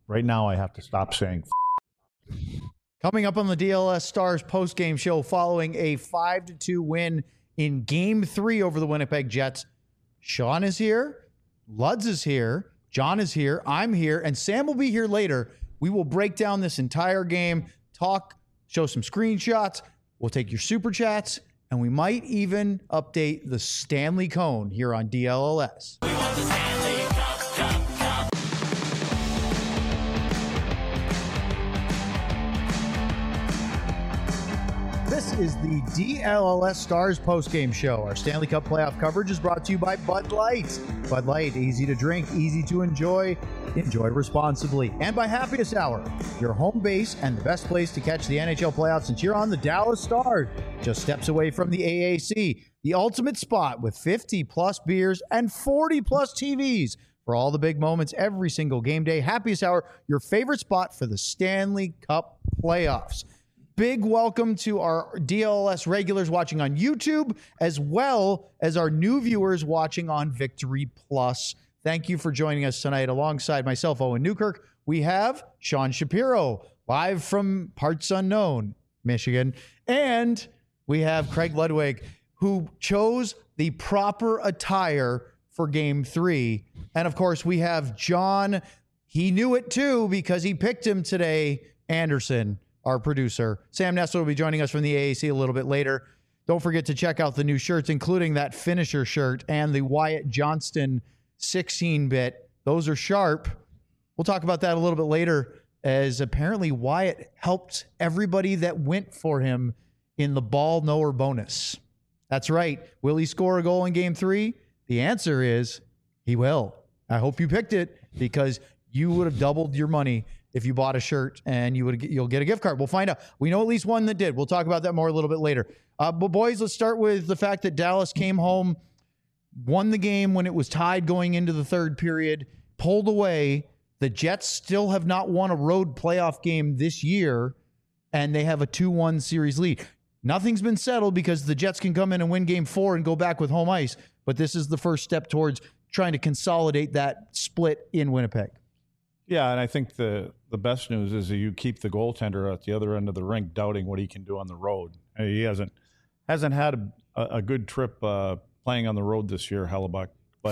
Right now, I have to stop saying. Coming up on the DLS Stars post-game show following a 5-2 win in Game 3 over the Winnipeg Jets. Sean is here. Luds is here. John is here. I'm here. And Sam will be here later. We will break down this entire game, talk, show some screenshots. We'll take your super chats. And we might even update the Stanley Cone here on DLLS. We want the Stanley Cup. This is the DLLS Stars postgame show. Our Stanley Cup playoff coverage is brought to you by Bud Light. Bud Light, easy to drink, easy to enjoy. Enjoy responsibly. And by Happiest Hour, your home base and the best place to catch the NHL playoffs since you're on the Dallas Stars. Just steps away from the AAC, the ultimate spot with 50-plus beers and 40-plus TVs. For all the big moments every single game day, Happiest Hour, your favorite spot for the Stanley Cup playoffs. Big welcome to our DLS regulars watching on YouTube, as well as our new viewers watching on Victory Plus. Thank you for joining us tonight. Alongside myself, Owen Newkirk, we have Sean Shapiro, live from parts unknown, Michigan. And we have Craig Ludwig, who chose the proper attire for Game 3. And, of course, we have John. He knew it, too, because he picked him today, Anderson, our producer. Sam Nessler will be joining us from the AAC a little bit later. Don't forget to check out the new shirts, including that finisher shirt and the Wyatt Johnston 16-bit. Those are sharp. We'll talk about that a little bit later, as apparently Wyatt helped everybody that went for him in the ball knower bonus. That's right. Will he score a goal in Game 3? The answer is he will. I hope you picked it, because you would have doubled your money if you bought a shirt, and you'll get a gift card. We'll find out. We know at least one that did. We'll talk about that more a little bit later. But boys, let's start with the fact that Dallas came home, won the game when it was tied going into the third period, pulled away. The Jets still have not won a road playoff game this year, and they have a 2-1 series lead. Nothing's been settled, because the Jets can come in and win Game 4 and go back with home ice, but this is the first step towards trying to consolidate that split in Winnipeg. Yeah, and I think the best news is that you keep the goaltender at the other end of the rink doubting what he can do on the road. He hasn't had a good trip playing on the road this year, Hellebuyck. But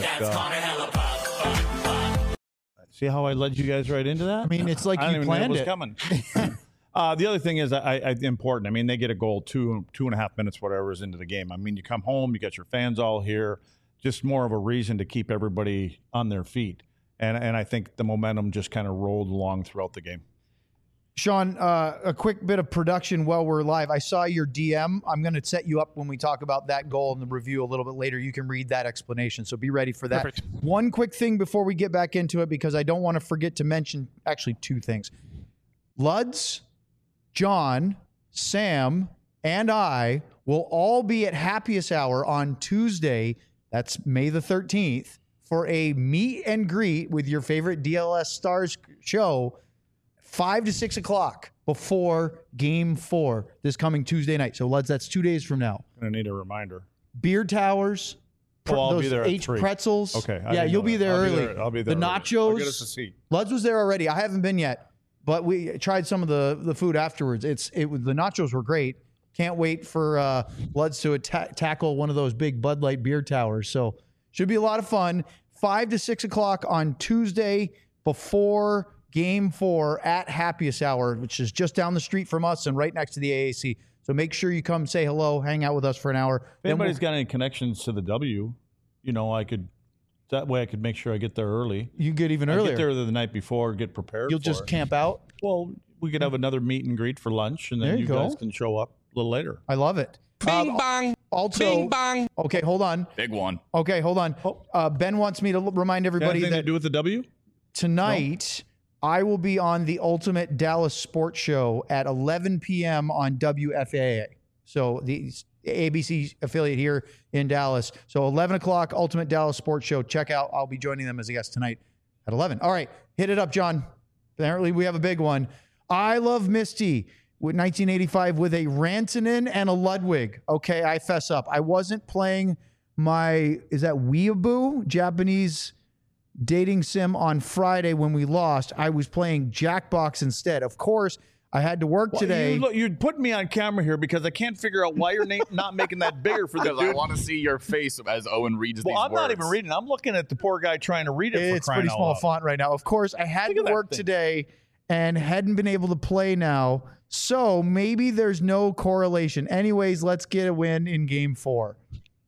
see how I led you guys right into that? I mean, it's like you planned it. Was coming. The other thing is important. I mean, they get a goal 2.5 minutes, whatever, is into the game. I mean, you come home, you got your fans all here, just more of a reason to keep everybody on their feet. And I think the momentum just kind of rolled along throughout the game. Sean, a quick bit of production while we're live. I saw your DM. I'm going to set you up when we talk about that goal in the review a little bit later. You can read that explanation, so be ready for that. Perfect. One quick thing before we get back into it, because I don't want to forget to mention actually two things. Luds, John, Sam, and I will all be at Happiest Hour on Tuesday. That's May the 13th. For a meet and greet with your favorite DLS Stars show, 5 to 6 o'clock before Game 4 this coming Tuesday night. So, Luds, that's 2 days from now. I need a reminder. Beer towers, I'll be there at H 3. pretzels. Okay. Yeah, you'll be there early. I'll be there. The early. nachos. I'll get us a seat. Luds was there already. I haven't been yet, but we tried some of the food afterwards. The nachos were great. Can't wait for Luds to tackle one of those big Bud Light beer towers. So, should be a lot of fun. 5 to 6 o'clock on Tuesday before Game 4 at Happiest Hour, which is just down the street from us and right next to the AAC. So make sure you come say hello, hang out with us for an hour. If anybody's got any connections to the W, that way I could make sure I get there early. You get even earlier. Get there the night before, get prepared. You'll just camp out? Well, we could have another meet and greet for lunch, and then you guys can show up a little later. I love it. Bing bong. Also, Bing bong. Okay, hold on. Big one. Okay, hold on. Ben wants me to remind everybody Anything that to do with the W? Tonight, I will be on the Ultimate Dallas Sports Show at 11 p.m. on WFAA. So the ABC affiliate here in Dallas. So 11 o'clock, Ultimate Dallas Sports Show. Check out. I'll be joining them as a guest tonight at 11. All right, hit it up, John. Apparently, we have a big one. I Love Misty with 1985 with a Rantanen and a Ludwig. Okay, I fess up. I wasn't playing my, is that Weeaboo? Japanese dating sim on Friday when we lost. I was playing Jackbox instead. Of course, I had to work today. You're putting me on camera here because I can't figure out why you're not making that bigger for the Because I dude. want to see your face as Owen reads these Well, I'm words. not even reading. I'm looking at the poor guy trying to read it. It's for crying pretty out small loud. font right now. Of course, I had Look to at that work thing. today and hadn't been able to play now. So maybe there's no correlation. Anyways, let's get a win in game 4.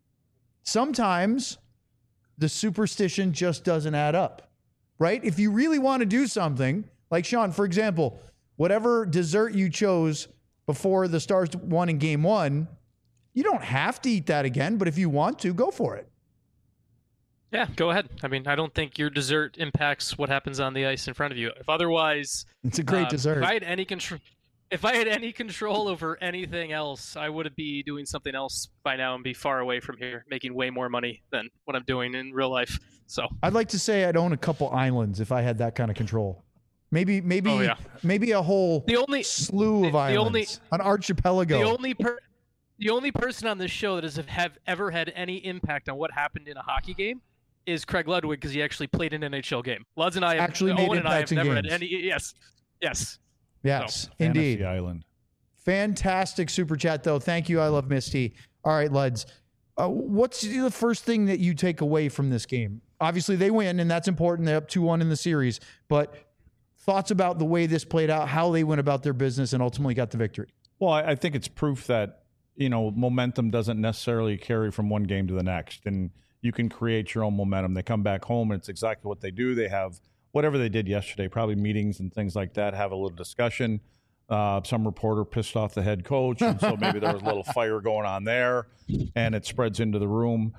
Sometimes the superstition just doesn't add up, right? If you really want to do something, like Sean, for example, whatever dessert you chose before the Stars won in game 1, you don't have to eat that again, but if you want to, go for it. Yeah, go ahead. I mean, I don't think your dessert impacts what happens on the ice in front of you. If otherwise, It's a great dessert. If I had any control over anything else, I would be doing something else by now and be far away from here, making way more money than what I'm doing in real life. So I'd like to say I'd own a couple islands if I had that kind of control. Maybe Oh, yeah. maybe a whole the only slew of the islands, only- an archipelago. the only person on this show that have ever had any impact on what happened in a hockey game is Craig Ludwig, because he actually played an NHL game. Luds and I have, Actually made Owen and I have impacts in never games. had any. Yes. Yes, Fantasy indeed. Island. Fantastic super chat though. Thank you. I love Misty. All right, Luds. What's the first thing that you take away from this game? Obviously, they win, and that's important. They're up 2-1 in the series. But thoughts about the way this played out, how they went about their business, and ultimately got the victory. Well, I think it's proof that, momentum doesn't necessarily carry from one game to the next. And you can create your own momentum. They come back home, and it's exactly what they do. They have whatever they did yesterday, probably meetings and things like that, have a little discussion. Some reporter pissed off the head coach, and so maybe there was a little fire going on there, and it spreads into the room.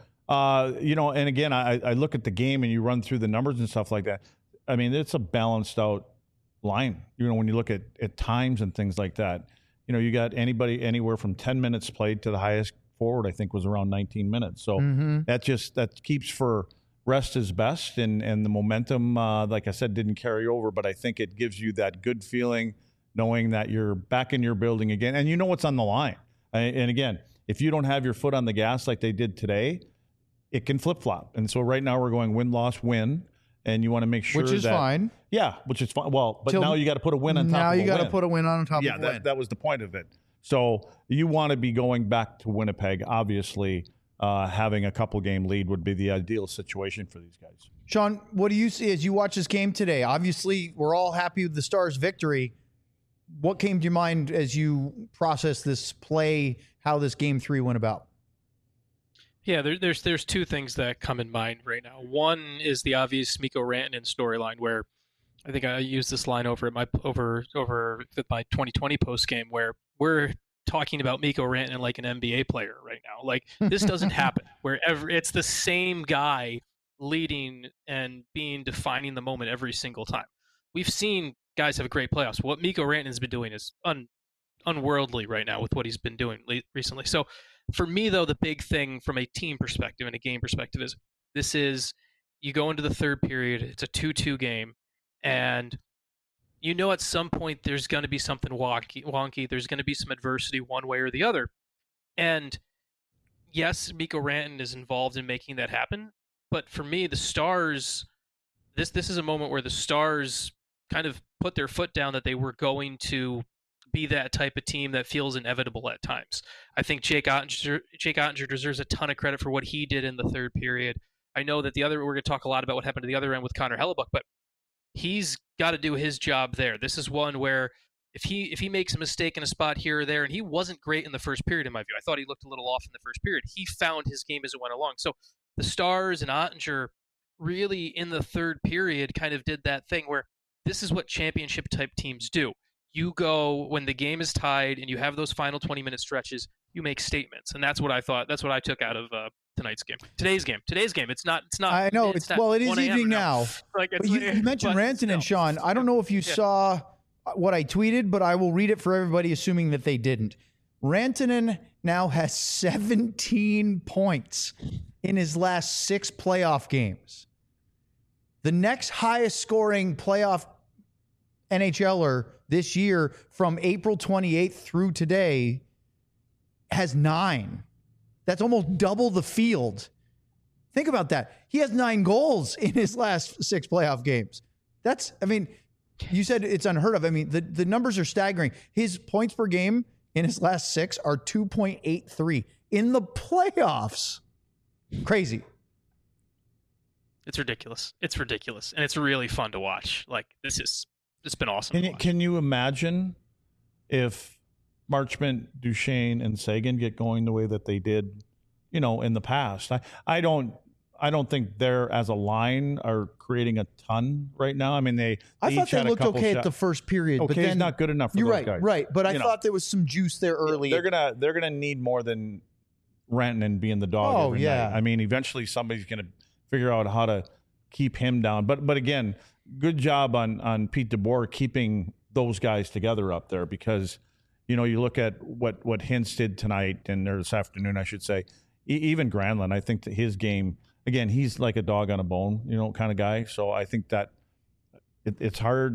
And again, I look at the game, and you run through the numbers and stuff like that. I mean, it's a balanced out line. When you look at times and things like that, you got anybody anywhere from 10 minutes played to the highest forward, I think, was around 19 minutes. So that keeps for rest is best, and the momentum, like I said, didn't carry over, but I think it gives you that good feeling knowing that you're back in your building again, and you know what's on the line. And again, if you don't have your foot on the gas like they did today, it can flip-flop. And so right now we're going win-loss-win, and you want to make sure Which is that, fine. Yeah, which is fine. Well, but Till- now you got to put a win on top Now of you a got to win. put a win on top Yeah, of a win. that was the point of it. So you want to be going back to Winnipeg. Obviously, having a couple game lead would be the ideal situation for these guys. Sean, what do you see as you watch this game today? Obviously, we're all happy with the Stars' victory. What came to your mind as you process this play, how this game 3 went about? Yeah, there's two things that come in mind right now. One is the obvious Mikko Rantanen storyline, where I think I used this line over my 2020 post game, where we're talking about Mikko Rantanen like an NBA player right now. Like, this doesn't happen. Wherever it's the same guy leading and defining the moment every single time. We've seen guys have great playoffs. What Mikko Rantanen's been doing is unworldly right now with what he's been doing recently. So for me, though, the big thing from a team perspective and a game perspective is you go into the third period, it's a 2-2 game, and at some point there's going to be something wonky. There's going to be some adversity one way or the other. And yes, Mikko Rantanen is involved in making that happen. But for me, the Stars, this is a moment where the Stars kind of put their foot down that they were going to be that type of team that feels inevitable at times. I think Jake Ottinger deserves a ton of credit for what he did in the third period. I know that we're going to talk a lot about what happened to the other end with Connor Hellebuck, but he's got to do his job there. This is one where if he makes a mistake in a spot here or there, and he wasn't great in the first period in my view. I thought he looked a little off in the first period. He found his game as it went along. So the Stars and Ottinger really in the third period kind of did that thing where this is what championship type teams do. You go when the game is tied and you have those final 20-minute stretches, you make statements. And that's what I thought. That's what I took out of tonight's game. Today's game. It's not. I know. It's It is 1 a.m. evening now. Like, But you mentioned Rantanen, Sean. I don't know if you saw what I tweeted, but I will read it for everybody, assuming that they didn't. Rantanen now has 17 points in his last 6 playoff games. The next highest scoring playoff NHLer this year from April 28th through today has 9. That's almost double the field. Think about that. He has 9 goals in his last 6 playoff games. You said it's unheard of. I mean, the numbers are staggering. His points per game in his last 6 are 2.83 in the playoffs. Crazy. It's ridiculous. It's ridiculous. And it's really fun to watch. Like, it's been awesome. Can you imagine if Marchment, Duchesne, and Sagan get going the way that they did, in the past? I don't think they're, as a line, are creating a ton right now. I mean, I thought they looked okay at the first period, but then it's not good enough for those guys. Right. But I thought there was some juice there early. They're gonna need more than Rantanen being the dog. Every night. I mean, eventually somebody's gonna figure out how to keep him down. But again, good job on Pete DeBoer keeping those guys together up there, because you look at what Hintz did tonight or this afternoon, I should say. Even Granlund, I think that his game, again, he's like a dog on a bone, kind of guy. So I think that it's hard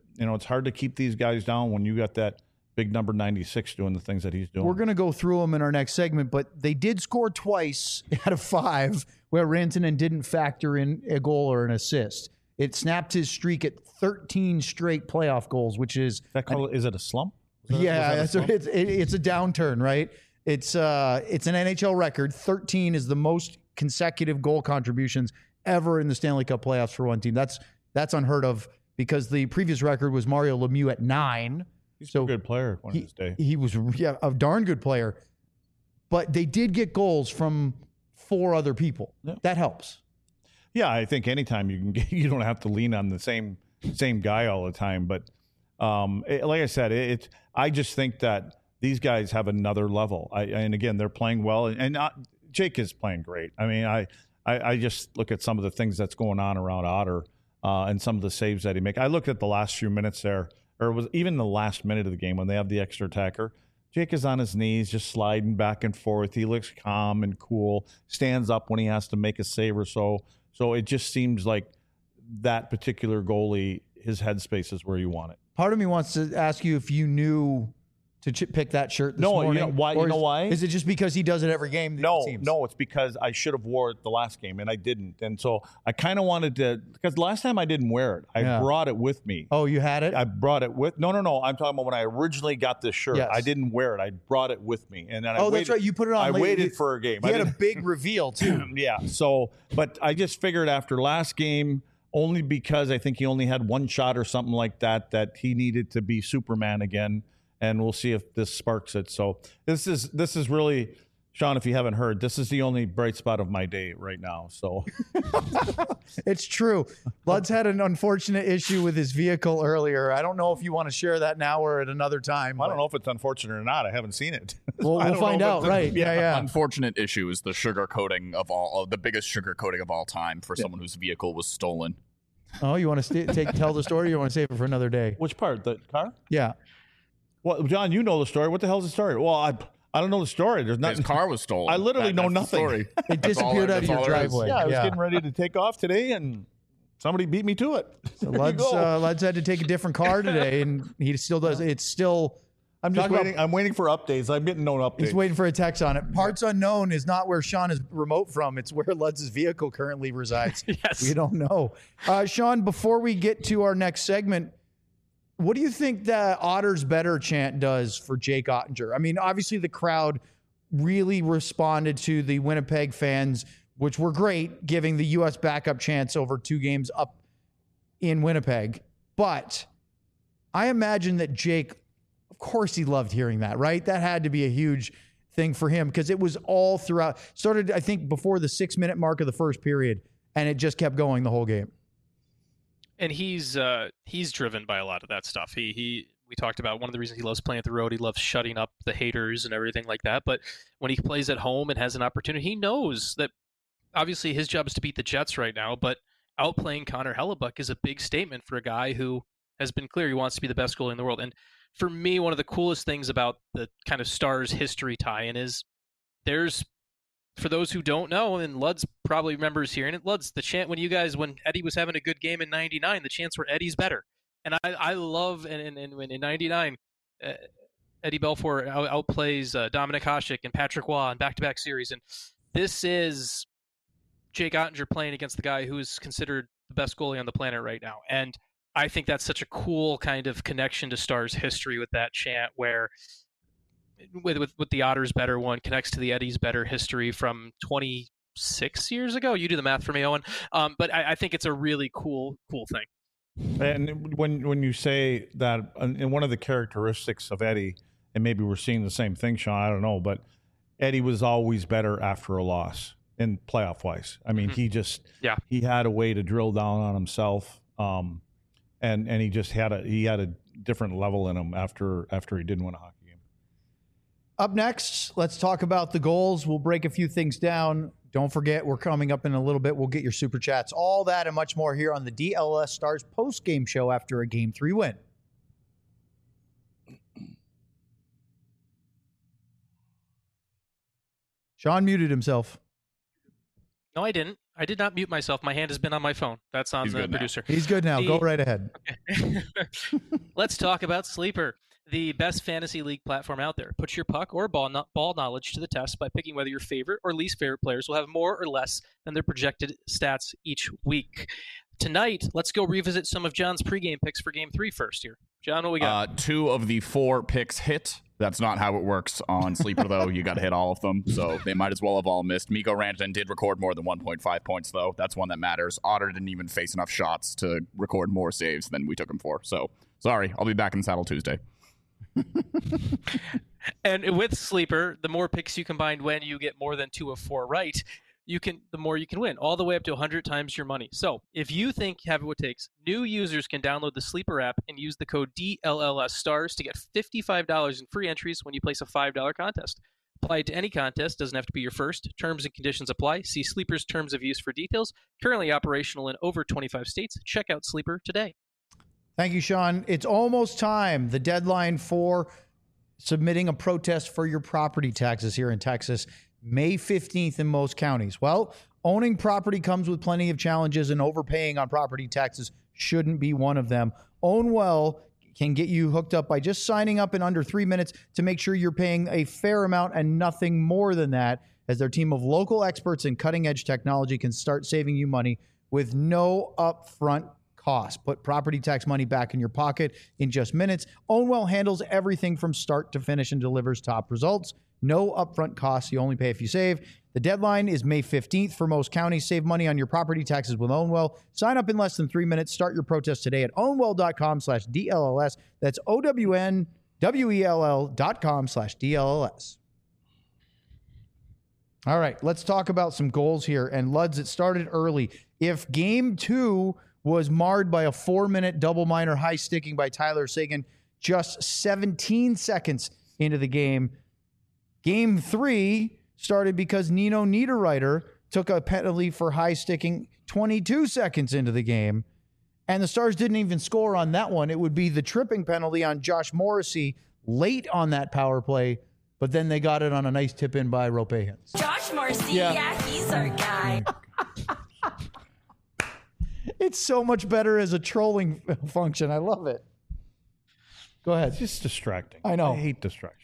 to keep these guys down when you got that big number 96 doing the things that he's doing. We're going to go through them in our next segment, but they did score twice out of 5 where Rantanen didn't factor in a goal or an assist. It snapped his streak at 13 straight playoff goals, which is... Is it a slump? It's a downturn, right? It's an NHL record. 13 is the most consecutive goal contributions ever in the Stanley Cup playoffs for one team. That's unheard of, because the previous record was Mario Lemieux at 9. He's a good player one of his day. He was a darn good player. But they did get goals from 4 other people. Yeah. That helps. Yeah, I think anytime you don't have to lean on the same guy all the time. But like I said, I just think that these guys have another level. And again, they're playing well, and Jake is playing great. I mean, I just look at some of the things that's going on around Otter and some of the saves that he makes. I looked at the last few minutes there, or it was even the last minute of the game when they have the extra attacker. Jake is on his knees, just sliding back and forth. He looks calm and cool, stands up when he has to make a save or so. So it just seems like that particular goalie, his headspace is where you want it. Part of me wants to ask you if you knew to pick that shirt this morning. Why? You know why? Is it just because he does it every game? No, it's because I should have wore it the last game, and I didn't. And so I kind of wanted to, because last time I didn't wear it. I brought it with me. Oh, you had it? I brought it with. No. I'm talking about when I originally got this shirt. Yes. I didn't wear it. I brought it with me, and then that's right. You put it on. I waited for a game. You had a big reveal too. Yeah. So, but I just figured after last game, only because I think he only had 1 shot or something like that, that he needed to be Superman again. And we'll see if this sparks it. So this is really, Sean, if you haven't heard, this is the only bright spot of my day right now. So it's true. Lud's had an unfortunate issue with his vehicle earlier. I don't know if you want to share that now or at another time. I don't know if it's unfortunate or not. I haven't seen it. We'll find out, right? Yeah. Unfortunate issue is the sugar coating the biggest sugar coating of all time for someone whose vehicle was stolen. Oh, you want to tell the story, or you want to save it for another day? Which part? The car? Yeah. Well, John, you know the story. What the hell's the story? Well, I don't know the story. There's nothing. His car was stolen. I literally know nothing. It disappeared out of your driveway. Yeah, I was getting ready to take off today, and somebody beat me to it. So Lud's had to take a different car today, and he still does. It's still. I'm just waiting. I'm waiting for updates. I'm getting no updates. He's waiting for a text on it. Parts unknown is not where Sean is remote from. It's where Lud's vehicle currently resides. Yes. We don't know. Sean, before we get to our next segment, what do you think that Otter's Better chant does for Jake Oettinger? I mean, obviously the crowd really responded to the Winnipeg fans, which were great, giving the U.S. backup chants over 2 games up in Winnipeg. But I imagine that Jake, of course he loved hearing that, right? That had to be a huge thing for him, because it was all throughout. Started, I think, before the 6-minute mark of the first period, and it just kept going the whole game. And he's driven by a lot of that stuff. We talked about one of the reasons he loves playing at the road. He loves shutting up the haters and everything like that. But when he plays at home and has an opportunity, he knows that obviously his job is to beat the Jets right now. But outplaying Connor Hellebuck is a big statement for a guy who has been clear he wants to be the best goalie in the world. And for me, one of the coolest things about the kind of Stars history tie-in is there's, for those who don't know, and Lud's probably remembers hearing it, Lud's the chant when Eddie was having a good game in '99, the chants were Eddie's better. And I love, and when in '99, Eddie Belfour outplays Dominic Hasek and Patrick Waugh in back-to-back series. And this is Jake Ottinger playing against the guy who's considered the best goalie on the planet right now. And I think that's such a cool kind of connection to Stars history with that chant, where with the Otters better one connects to the Eddie's better history from 26 years ago. You do the math for me, Owen. But I think it's a really cool thing. And when you say that, and one of the characteristics of Eddie, and maybe we're seeing the same thing, Sean, I don't know, but Eddie was always better after a loss in playoff wise. I mean, he had a way to drill down on himself, and he just had a different level in him after he didn't win a hockey game. Up next, let's talk about the goals. We'll break a few things down. Don't forget, we're coming up in a little bit. We'll get your super chats, all that and much more here on the DLS Stars post-game show after a Game 3 win. Sean muted himself. No, I didn't. I did not mute myself. My hand has been on my phone. That's on the producer. He's good now. Go right ahead. Okay. Let's talk about Sleeper, the best fantasy league platform out there. Put your puck or ball knowledge to the test by picking whether your favorite or least favorite players will have more or less than their projected stats each week. Tonight, let's go revisit some of John's pregame picks for Game 3 first here. John, what we got? 2 of the 4 picks hit. That's not how it works on Sleeper, though. You got to hit all of them, so they might as well have all missed. Mikko Rantanen did record more than 1.5 points, though. That's one that matters. Otter didn't even face enough shots to record more saves than we took him for. So, sorry. I'll be back in the saddle Tuesday. And with Sleeper, the more picks you combine when you get more than 2 of 4 right, the more you can win, all the way up to 100 times your money. So if you think you have what it takes, new users can download the Sleeper app and use the code DLLS Stars to get $55 in free entries when you place a $5 contest. Apply it to any contest, doesn't have to be your first. Terms and conditions apply. See Sleeper's terms of use for details. Currently operational in over 25 states. Check out Sleeper today. Thank you, Sean. It's almost time. The deadline for submitting a protest for your property taxes here in Texas, May 15th in most counties. Well, owning property comes with plenty of challenges, and overpaying on property taxes shouldn't be one of them. Own Well can get you hooked up by just signing up in under 3 minutes to make sure you're paying a fair amount and nothing more than that, as their team of local experts in cutting-edge technology can start saving you money with no upfront cost. Put property tax money back in your pocket in just minutes. Own Well handles everything from start to finish and delivers top results. No upfront costs. You only pay if you save. The deadline is May 15th for most counties. Save money on your property taxes with Own Well. Sign up in less than 3 minutes. Start your protest today at ownwell.com/DLLS. That's OWNWELL.com/DLLS. All right, let's talk about some goals here. And Luds, it started early. If Game 2 was marred by a 4-minute double minor high sticking by Tyler Seguin just 17 seconds into the game, Game 3 started because Nino Niederreiter took a penalty for high sticking 22 seconds into the game, and the Stars didn't even score on that one. It would be the tripping penalty on Josh Morrissey late on that power play, but then they got it on a nice tip in by Ropehans. Josh Morrissey, yeah, he's our guy. It's so much better as a trolling function. I love it. Go ahead. It's just distracting. I know. I hate distractions.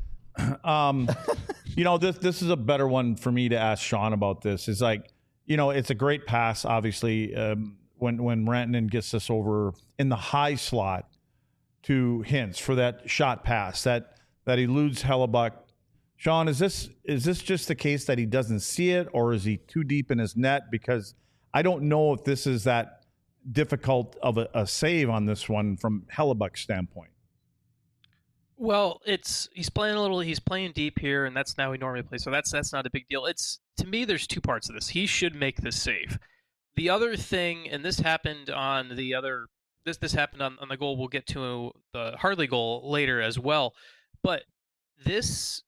This is a better one for me to ask Sean about. This is like, it's a great pass, obviously, when Rantanen gets this over in the high slot to Hintz for that shot pass that eludes Hellebuck. Sean, is this just the case that he doesn't see it, or is he too deep in his net? Because I don't know if this is that difficult of a save on this one from Hellebuck's standpoint. Well, he's playing deep here, and that's how he normally plays. So that's not a big deal. To me, there's 2 parts of this. He should make the save. The other thing, and this happened on the other, this happened on the goal. We'll get to the Hartley goal later as well. But Luds,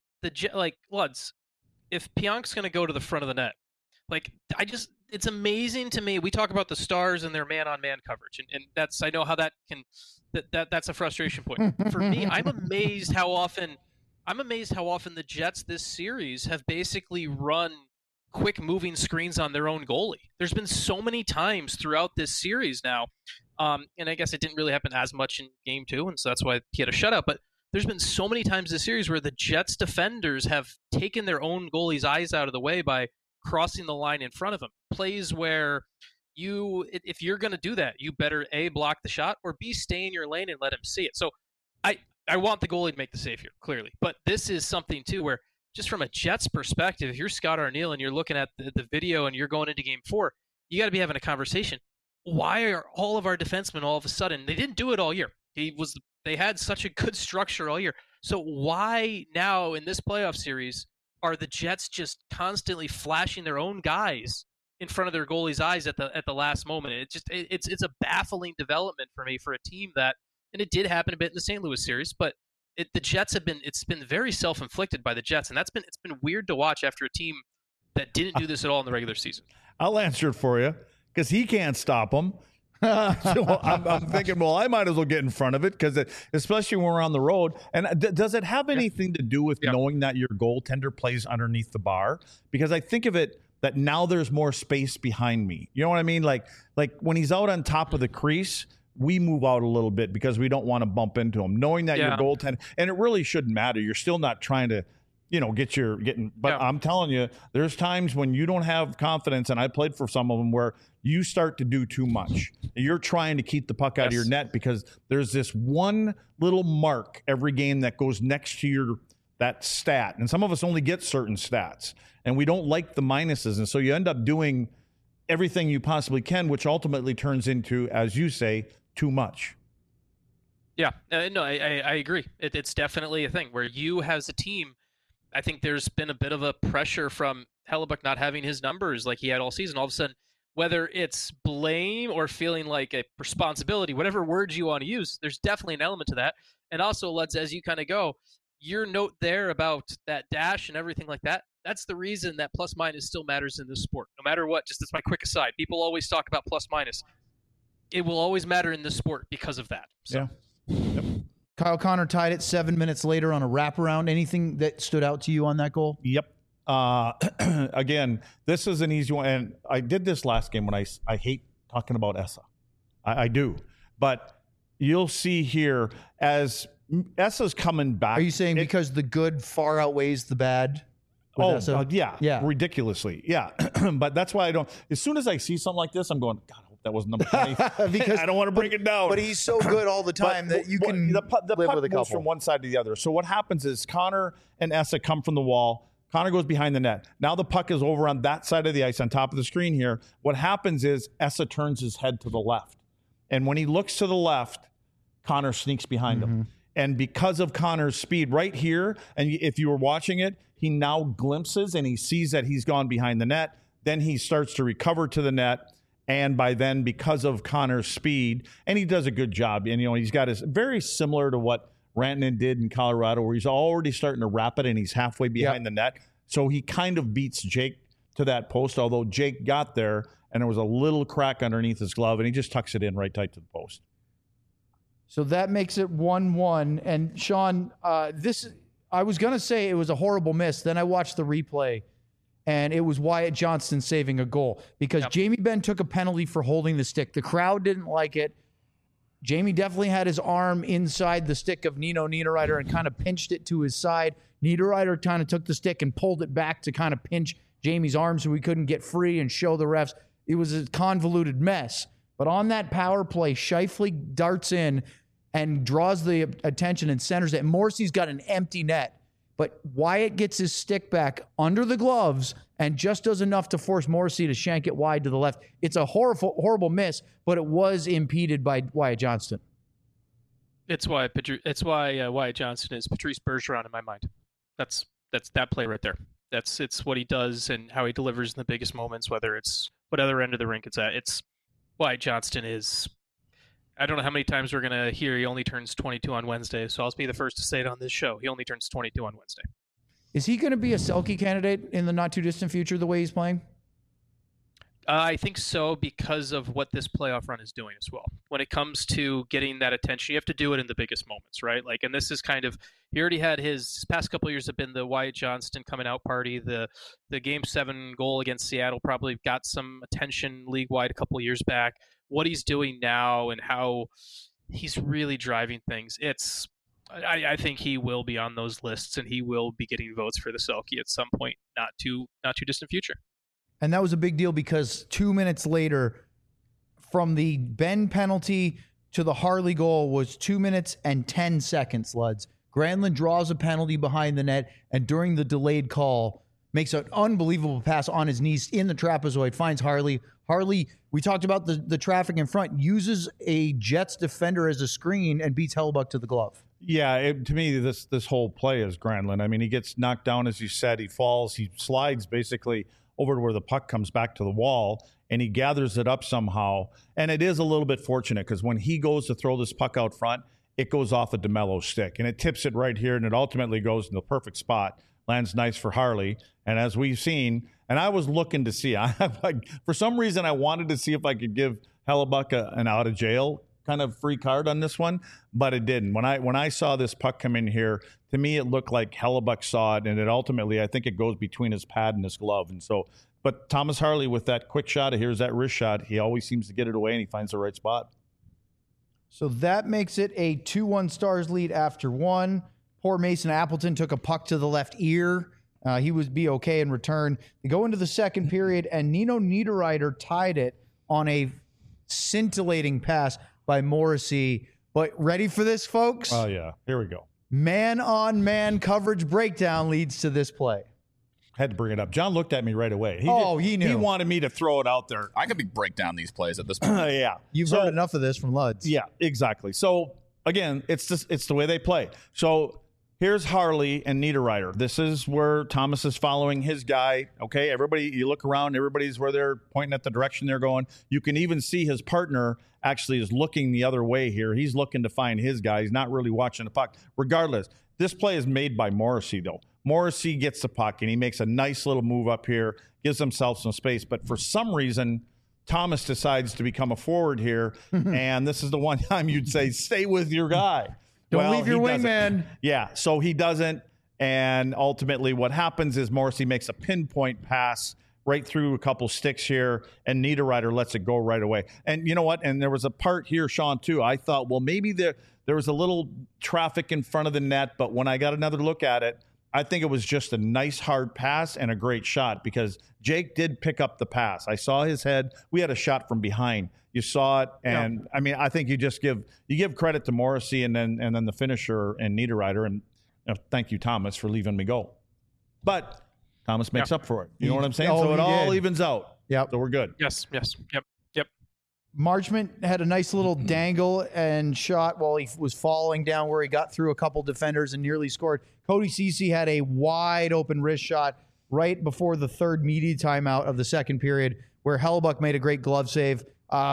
if Pionk's going to go to the front of the net, it's amazing to me. We talk about the Stars and their man-on-man coverage, and I know how that can. That's a frustration point for me. I'm amazed how often the Jets this series have basically run quick moving screens on their own goalie. There's been so many times throughout this series now, and I guess it didn't really happen as much in Game 2, and so that's why he had a shutout. But there's been so many times this series where the Jets defenders have taken their own goalie's eyes out of the way by crossing the line in front of him. Plays where if you're going to do that, you better A, block the shot, or B, stay in your lane and let him see it. So I want the goalie to make the save here, clearly. But this is something, too, where just from a Jets perspective, if you're Scott Arniel and you're looking at the video and you're going into Game 4, you got to be having a conversation. Why are all of our defensemen all of a sudden – they didn't do it all year. They had such a good structure all year. So why now in this playoff series are the Jets just constantly flashing their own guys in front of their goalie's eyes at the last moment? It's a baffling development for me for a team that – and it did happen a bit in the St. Louis series, but the Jets it's been very self-inflicted by the Jets, and it's been weird to watch after a team that didn't do this at all in the regular season. I'll answer it for you because he can't stop them. So I'm thinking, well, I might as well get in front of it because especially when we're on the road. And does it have anything to do with knowing that your goaltender plays underneath the bar? Because I think of it that now there's more space behind me. You know what I mean? Like when he's out on top of the crease, we move out a little bit because we don't want to bump into him, knowing that your goaltender, and it really shouldn't matter. You're still not trying to, but I'm telling you, there's times when you don't have confidence, and I played for some of them where you start to do too much. You're trying to keep the puck out of your net because there's this one little mark every game that goes next to that stat. And some of us only get certain stats, and we don't like the minuses. And so you end up doing everything you possibly can, which ultimately turns into, as you say, too much. Yeah, no, I agree. It's definitely a thing where you as a team, I think there's been a bit of a pressure from Hellebuyck not having his numbers like he had all season. All of a sudden, whether it's blame or feeling like a responsibility, whatever words you want to use, there's definitely an element to that. And also, Lutz, as you kind of go, your note there about that dash and everything like that, that's the reason that plus minus still matters in this sport. No matter what, just as my quick aside, people always talk about plus minus. It will always matter in this sport because of that. So. Yeah. Yep. Kyle Connor tied it 7 minutes later on a wraparound. Anything that stood out to you on that goal? Yep. Again, this is an easy one. And I did this last game when I hate talking about Esa. I do. But you'll see here as Esa's coming back. Are you saying because the good far outweighs the bad? Yeah. Ridiculously. Yeah. But that's why as soon as I see something like this, I'm going, God, I hope that was number 20. Because I don't want to break it down. But he's so good all the time that you can the puck live with a couple. Moves from one side to the other. So what happens is Connor and Esa come from the wall. Connor goes behind the net. Now the puck is over on that side of the ice on top of the screen here. What happens is Esa turns his head to the left. And when he looks to the left, Connor sneaks behind him. And because of Connor's speed right here, and if you were watching it, he now glimpses and he sees that he's gone behind the net. Then he starts to recover to the net. And by then, because of Connor's speed, and he does a good job. And, he's got his very similar to what Rantanen did in Colorado, where he's already starting to wrap it and he's halfway behind the net. So he kind of beats Jake to that post, although Jake got there and there was a little crack underneath his glove and he just tucks it in right tight to the post. So that makes it 1-1. And Sean, I was going to say it was a horrible miss. Then I watched the replay, and it was Wyatt Johnston saving a goal because Jamie Benn took a penalty for holding the stick. The crowd didn't like it. Jamie definitely had his arm inside the stick of Nino Niederreiter and kind of pinched it to his side. Niederreiter kind of took the stick and pulled it back to kind of pinch Jamie's arm so he couldn't get free and show the refs. It was a convoluted mess. But on that power play, Scheifele darts in and draws the attention and centers it. Morrissey's got an empty net, but Wyatt gets his stick back under the gloves and just does enough to force Morrissey to shank it wide to the left. It's a horrible miss, but it was impeded by Wyatt Johnston. It's why Wyatt Johnston is Patrice Bergeron in my mind. That's that play right there. It's what he does and how he delivers in the biggest moments, whether it's what other end of the rink it's at. It's Wyatt Johnston is. I don't know how many times we're going to hear he only turns 22 on Wednesday, so I'll be the first to say it on this show. He only turns 22 on Wednesday. Is he going to be a Selke candidate in the not-too-distant future the way he's playing? I think so because of what this playoff run is doing as well. When it comes to getting that attention, you have to do it in the biggest moments, right? And this is kind of, he already had his past couple of years have been the Wyatt Johnston coming out party. The Game 7 goal against Seattle probably got some attention league-wide a couple of years back. What he's doing now and how he's really driving things, I think he will be on those lists and he will be getting votes for the Selke at some point, not too distant future. And that was a big deal because 2 minutes later, from the Benn penalty to the Harley goal was 2 minutes and 10 seconds, Luds. Granlund draws a penalty behind the net, and during the delayed call, makes an unbelievable pass on his knees in the trapezoid, finds Harley. Harley, we talked about the traffic in front, uses a Jets defender as a screen and beats Hellebuyck to the glove. Yeah, to me, this whole play is Granlund. I mean, he gets knocked down, as you said. He falls. He slides basically over to where the puck comes back to the wall, and he gathers it up somehow. And it is a little bit fortunate because when he goes to throw this puck out front, it goes off of DeMello's stick, and it tips it right here, and it ultimately goes in the perfect spot. Lands nice for Harley. And as we've seen, and I was looking to see, for some reason, I wanted to see if I could give Hellebuyck an out of jail kind of free card on this one, but it didn't. When I saw this puck come in here, to me, it looked like Hellebuyck saw it, and it ultimately, I think it goes between his pad and his glove. And so, but Thomas Harley with that quick shot, here's that wrist shot, he always seems to get it away, and he finds the right spot. So that makes it a 2-1 Stars lead after one. Poor Mason Appleton took a puck to the left ear. He would be okay in return. They go into the second period, and Nino Niederreiter tied it on a scintillating pass by Morrissey. But ready for this, folks? Oh, yeah. Here we go. Man-on-man coverage breakdown leads to this play. Had to bring it up. John looked at me right away. He knew. He wanted me to throw it out there. I could break down these plays at this point. Yeah. You've heard enough of this from Luds. Yeah, exactly. So, again, it's the way they play. So, here's Harley and Niederreiter. This is where Thomas is following his guy. Okay, everybody, you look around, everybody's where they're pointing at the direction they're going. You can even see his partner actually is looking the other way here. He's looking to find his guy. He's not really watching the puck. Regardless, this play is made by Morrissey, though. Morrissey gets the puck, and he makes a nice little move up here, gives himself some space. But for some reason, Thomas decides to become a forward here, and this is the one time you'd say, stay with your guy. Don't leave your wingman. Yeah, so he doesn't, and ultimately what happens is Morrissey makes a pinpoint pass right through a couple sticks here, and Niederreiter lets it go right away. And you know what? And there was a part here, Sean, too. I thought, well, maybe there was a little traffic in front of the net, but when I got another look at it, I think it was just a nice hard pass and a great shot because Jake did pick up the pass. I saw his head. We had a shot from behind. You saw it, and I mean, I think you just give credit to Morrissey and then the finisher and Niederreiter, and thank you, Thomas, for leaving me go. But Thomas makes up for it. You know what I'm saying? So it all evens out. Yep. So we're good. Yes. Yep. Marchment had a nice little dangle and shot while he was falling down where he got through a couple defenders and nearly scored. Cody Ceci had a wide open wrist shot right before the third media timeout of the second period where Hellebuyck made a great glove save.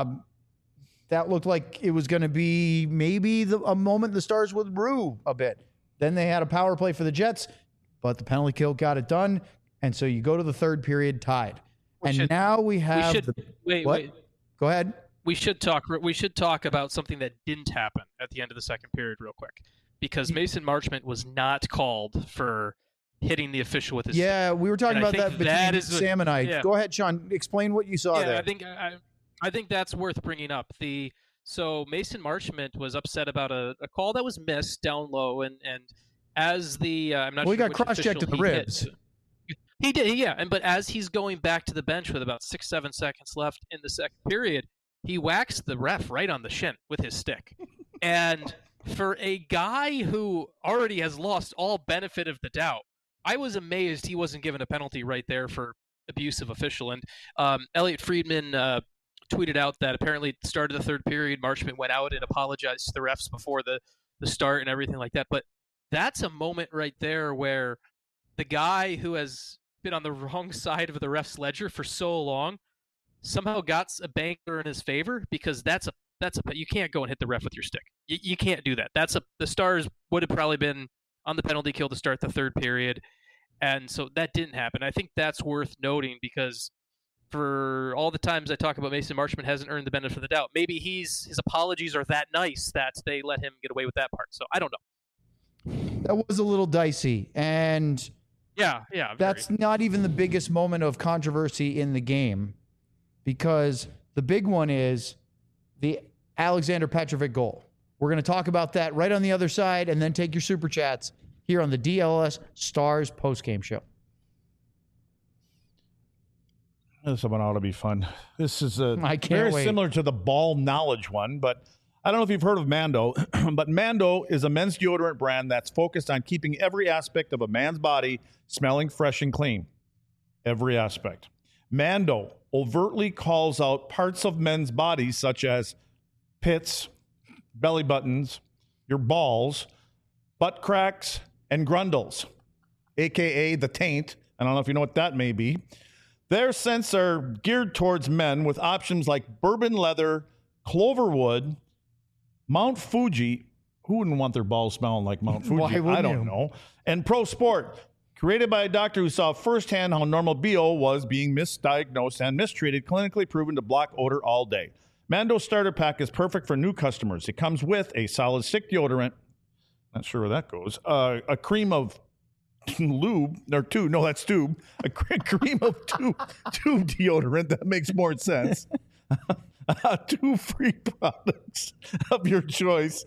That looked like it was going to be maybe a moment the Stars would rue a bit. Then they had a power play for the Jets, but the penalty kill got it done. And so you go to the third period tied. Now we have wait. Go ahead. We should talk about something that didn't happen at the end of the second period real quick. Because Mason Marchment was not called for hitting the official with his stick. We were talking about that between Sam and I. Yeah. Go ahead, Sean. Explain what you saw there. I think that's worth bringing up. So Mason Marchment was upset about a call that was missed down low, and as the I'm not sure. He got cross-checked in the ribs. He did, yeah. But as he's going back to the bench with about 6-7 seconds left in the second period, he whacks the ref right on the shin with his stick. And for a guy who already has lost all benefit of the doubt, I was amazed he wasn't given a penalty right there for abusive official. And Elliot Friedman tweeted out that apparently at the start of the third period, Marchment went out and apologized to the refs before the start and everything like that. But that's a moment right there where the guy who has been on the wrong side of the ref's ledger for so long somehow got a banker in his favor, because you can't go and hit the ref with your stick. You can't do that. The Stars would have probably been on the penalty kill to start the third period, and so that didn't happen. I think that's worth noting because for all the times I talk about Mason Marchment hasn't earned the benefit of the doubt, maybe his apologies are that nice that they let him get away with that part. So I don't know. That was a little dicey, and yeah, that's not even the biggest moment of controversy in the game, because the big one is the Alexander Petrovic goal. We're going to talk about that right on the other side, and then take your super chats here on the DLS Stars postgame show. This one ought to be fun. This is I can't very wait. similar to the ball knowledge one, but I don't know if you've heard of Mando, but Mando is a men's deodorant brand that's focused on keeping every aspect of a man's body smelling fresh and clean. Every aspect. Mando overtly calls out parts of men's bodies such as pits, belly buttons, your balls, butt cracks, and grundles, aka the taint. I don't know if you know what that may be. Their scents are geared towards men with options like bourbon leather, cloverwood, Mount Fuji. Who wouldn't want their balls smelling like Mount Fuji? Why wouldn't I don't you? know. And Pro Sport, created by a doctor who saw firsthand how normal BO was being misdiagnosed and mistreated, clinically proven to block odor all day. Mando Starter Pack is perfect for new customers. It comes with a solid stick deodorant. Not sure where that goes. A cream of lube, or tube. No, that's tube. A cream of tube deodorant. That makes more sense. 2 free products of your choice.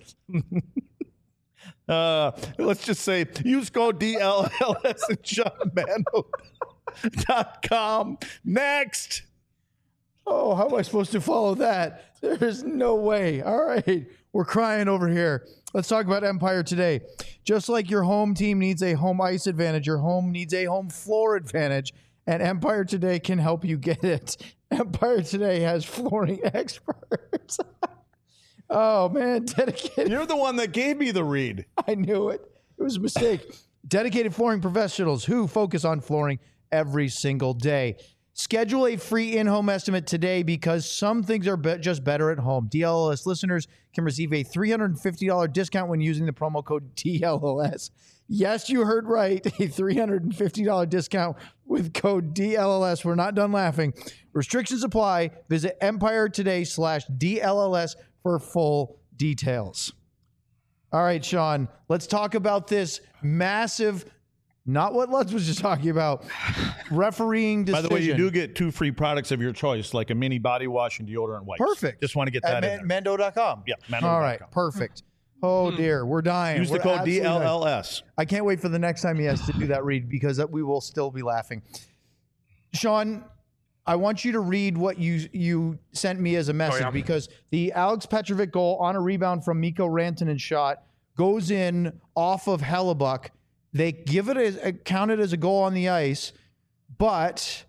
Let's just say use code DLLS and SeanMando.com. Next. Oh, how am I supposed to follow that? There's no way. All right. We're crying over here. Let's talk about Empire Today. Just like your home team needs a home ice advantage, your home needs a home floor advantage, and Empire Today can help you get it. Empire Today has flooring experts. Oh, man. Dedicated. You're the one that gave me the read. I knew it. It was a mistake. Dedicated flooring professionals who focus on flooring every single day. Schedule a free in-home estimate today because some things are just better at home. DLLS listeners can receive a $350 discount when using the promo code DLLS. Yes, you heard right. A $350 discount with code DLLS. We're not done laughing. Restrictions apply. Visit EmpireToday/DLLS for full details. All right, Sean, let's talk about this massive, not what Lutz was just talking about, refereeing decision. By the way, you do get 2 free products of your choice, like a mini body wash and deodorant wipes. Perfect. Just want to get that in there. Mando.com. Yeah, Mando.com. All right, perfect. Oh, dear. We're dying. Use the We're code absolutely dying. DLLS. I can't wait for the next time he has to do that read because we will still be laughing. Sean, I want you to read what you sent me as a message because the Alex Petrovic goal on a rebound from Mikko Rantanen shot goes in off of Hellebuck. They give it counted as a goal on the ice, but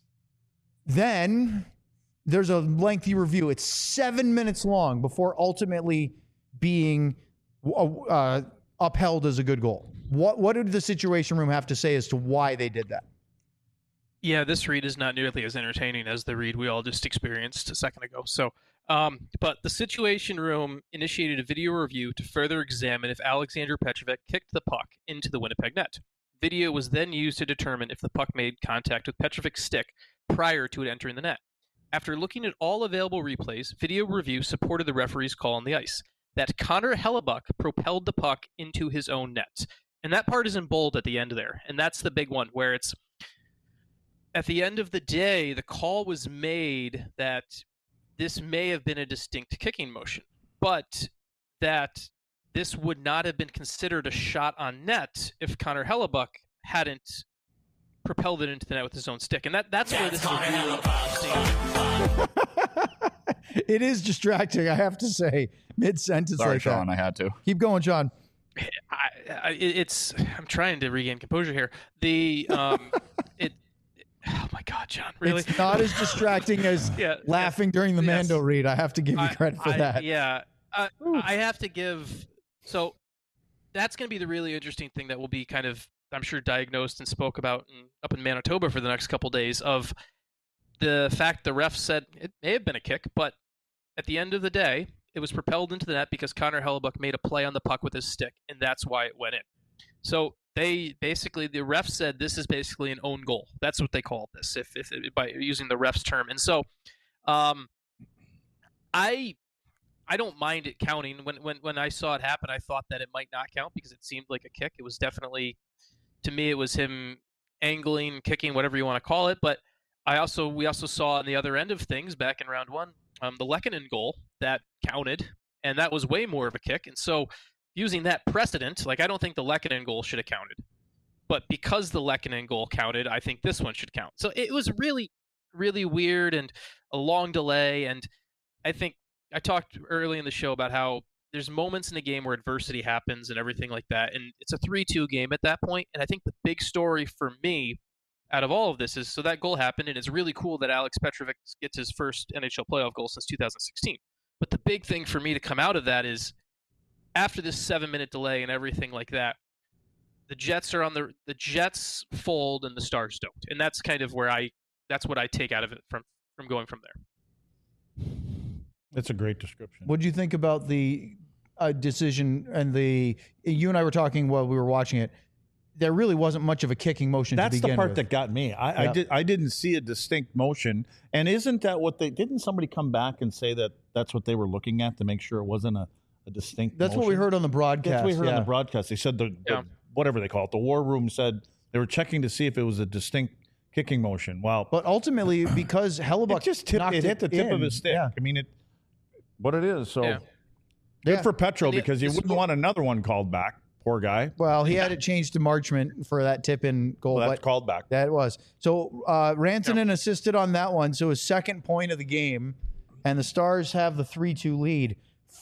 then there's a lengthy review. It's 7 minutes long before ultimately being upheld as a good goal. What did the Situation Room have to say as to why they did that? Yeah, this read is not nearly as entertaining as the read we all just experienced a second ago. So, but the Situation Room initiated a video review to further examine if Alexander Petrovic kicked the puck into the Winnipeg net. Video was then used to determine if the puck made contact with Petrovic's stick prior to it entering the net. After looking at all available replays, video review supported the referee's call on the ice, that Connor Hellebuck propelled the puck into his own net. And that part is in bold at the end there. And that's the big one, where it's, at the end of the day, the call was made that this may have been a distinct kicking motion, but that this would not have been considered a shot on net if Connor Hellebuck hadn't propelled it into the net with his own stick. And that's where this is a really interesting. It is distracting, I have to say, mid-sentence. Sorry, like Sean, that. I had to. Keep going, Sean. I'm trying to regain composure here. Oh my God, John! Really? It's not as distracting as laughing during the Mando read. I have to give you credit for that. I have to give. So that's going to be the really interesting thing that will be kind of, I'm sure, diagnosed and spoke about up in Manitoba for the next couple days, of the fact the ref said it may have been a kick, but at the end of the day, it was propelled into the net because Connor Hellebuck made a play on the puck with his stick, and that's why it went in. So the ref said this is basically an own goal. That's what they called this, if by using the ref's term. And so, I don't mind it counting. When I saw it happen, I thought that it might not count because it seemed like a kick. It was definitely, to me, it was him angling, kicking, whatever you want to call it. But we also saw on the other end of things back in round one, the Lehkonen goal that counted, and that was way more of a kick. And so, using that precedent, I don't think the Lehkonen goal should have counted. But because the Lehkonen goal counted, I think this one should count. So it was really, really weird and a long delay. And I think I talked early in the show about how there's moments in a game where adversity happens and everything like that. And it's a 3-2 game at that point. And I think the big story for me out of all of this is, so that goal happened, and it's really cool that Alex Petrovic gets his first NHL playoff goal since 2016. But the big thing for me to come out of that is, after this 7-minute delay and everything like that, the Jets are the Jets fold and the Stars don't. And that's kind of where that's what I take out of it from going from there. That's a great description. What do you think about the decision and you and I were talking while we were watching it, there really wasn't much of a kicking motion to begin with. That's the part that got me. I didn't see a distinct motion. And isn't that what didn't somebody come back and say that that's what they were looking at to make sure it wasn't a distinct That's motion? what we heard on the broadcast. That's what we heard on the broadcast. They said the whatever they call it, the war room said they were checking to see if it was a distinct kicking motion. Wow. But ultimately, because Hellebuyck it just hit the tip of his stick. Yeah. I mean, what it is. So good Yeah. for Petro, because you wouldn't want another one called back. Poor guy. Well, he had it changed to Marchment for that tip-in goal. Well, that's called back. That was. So Rantanen assisted on that one. So his second point of the game, and the Stars have the 3-2 lead.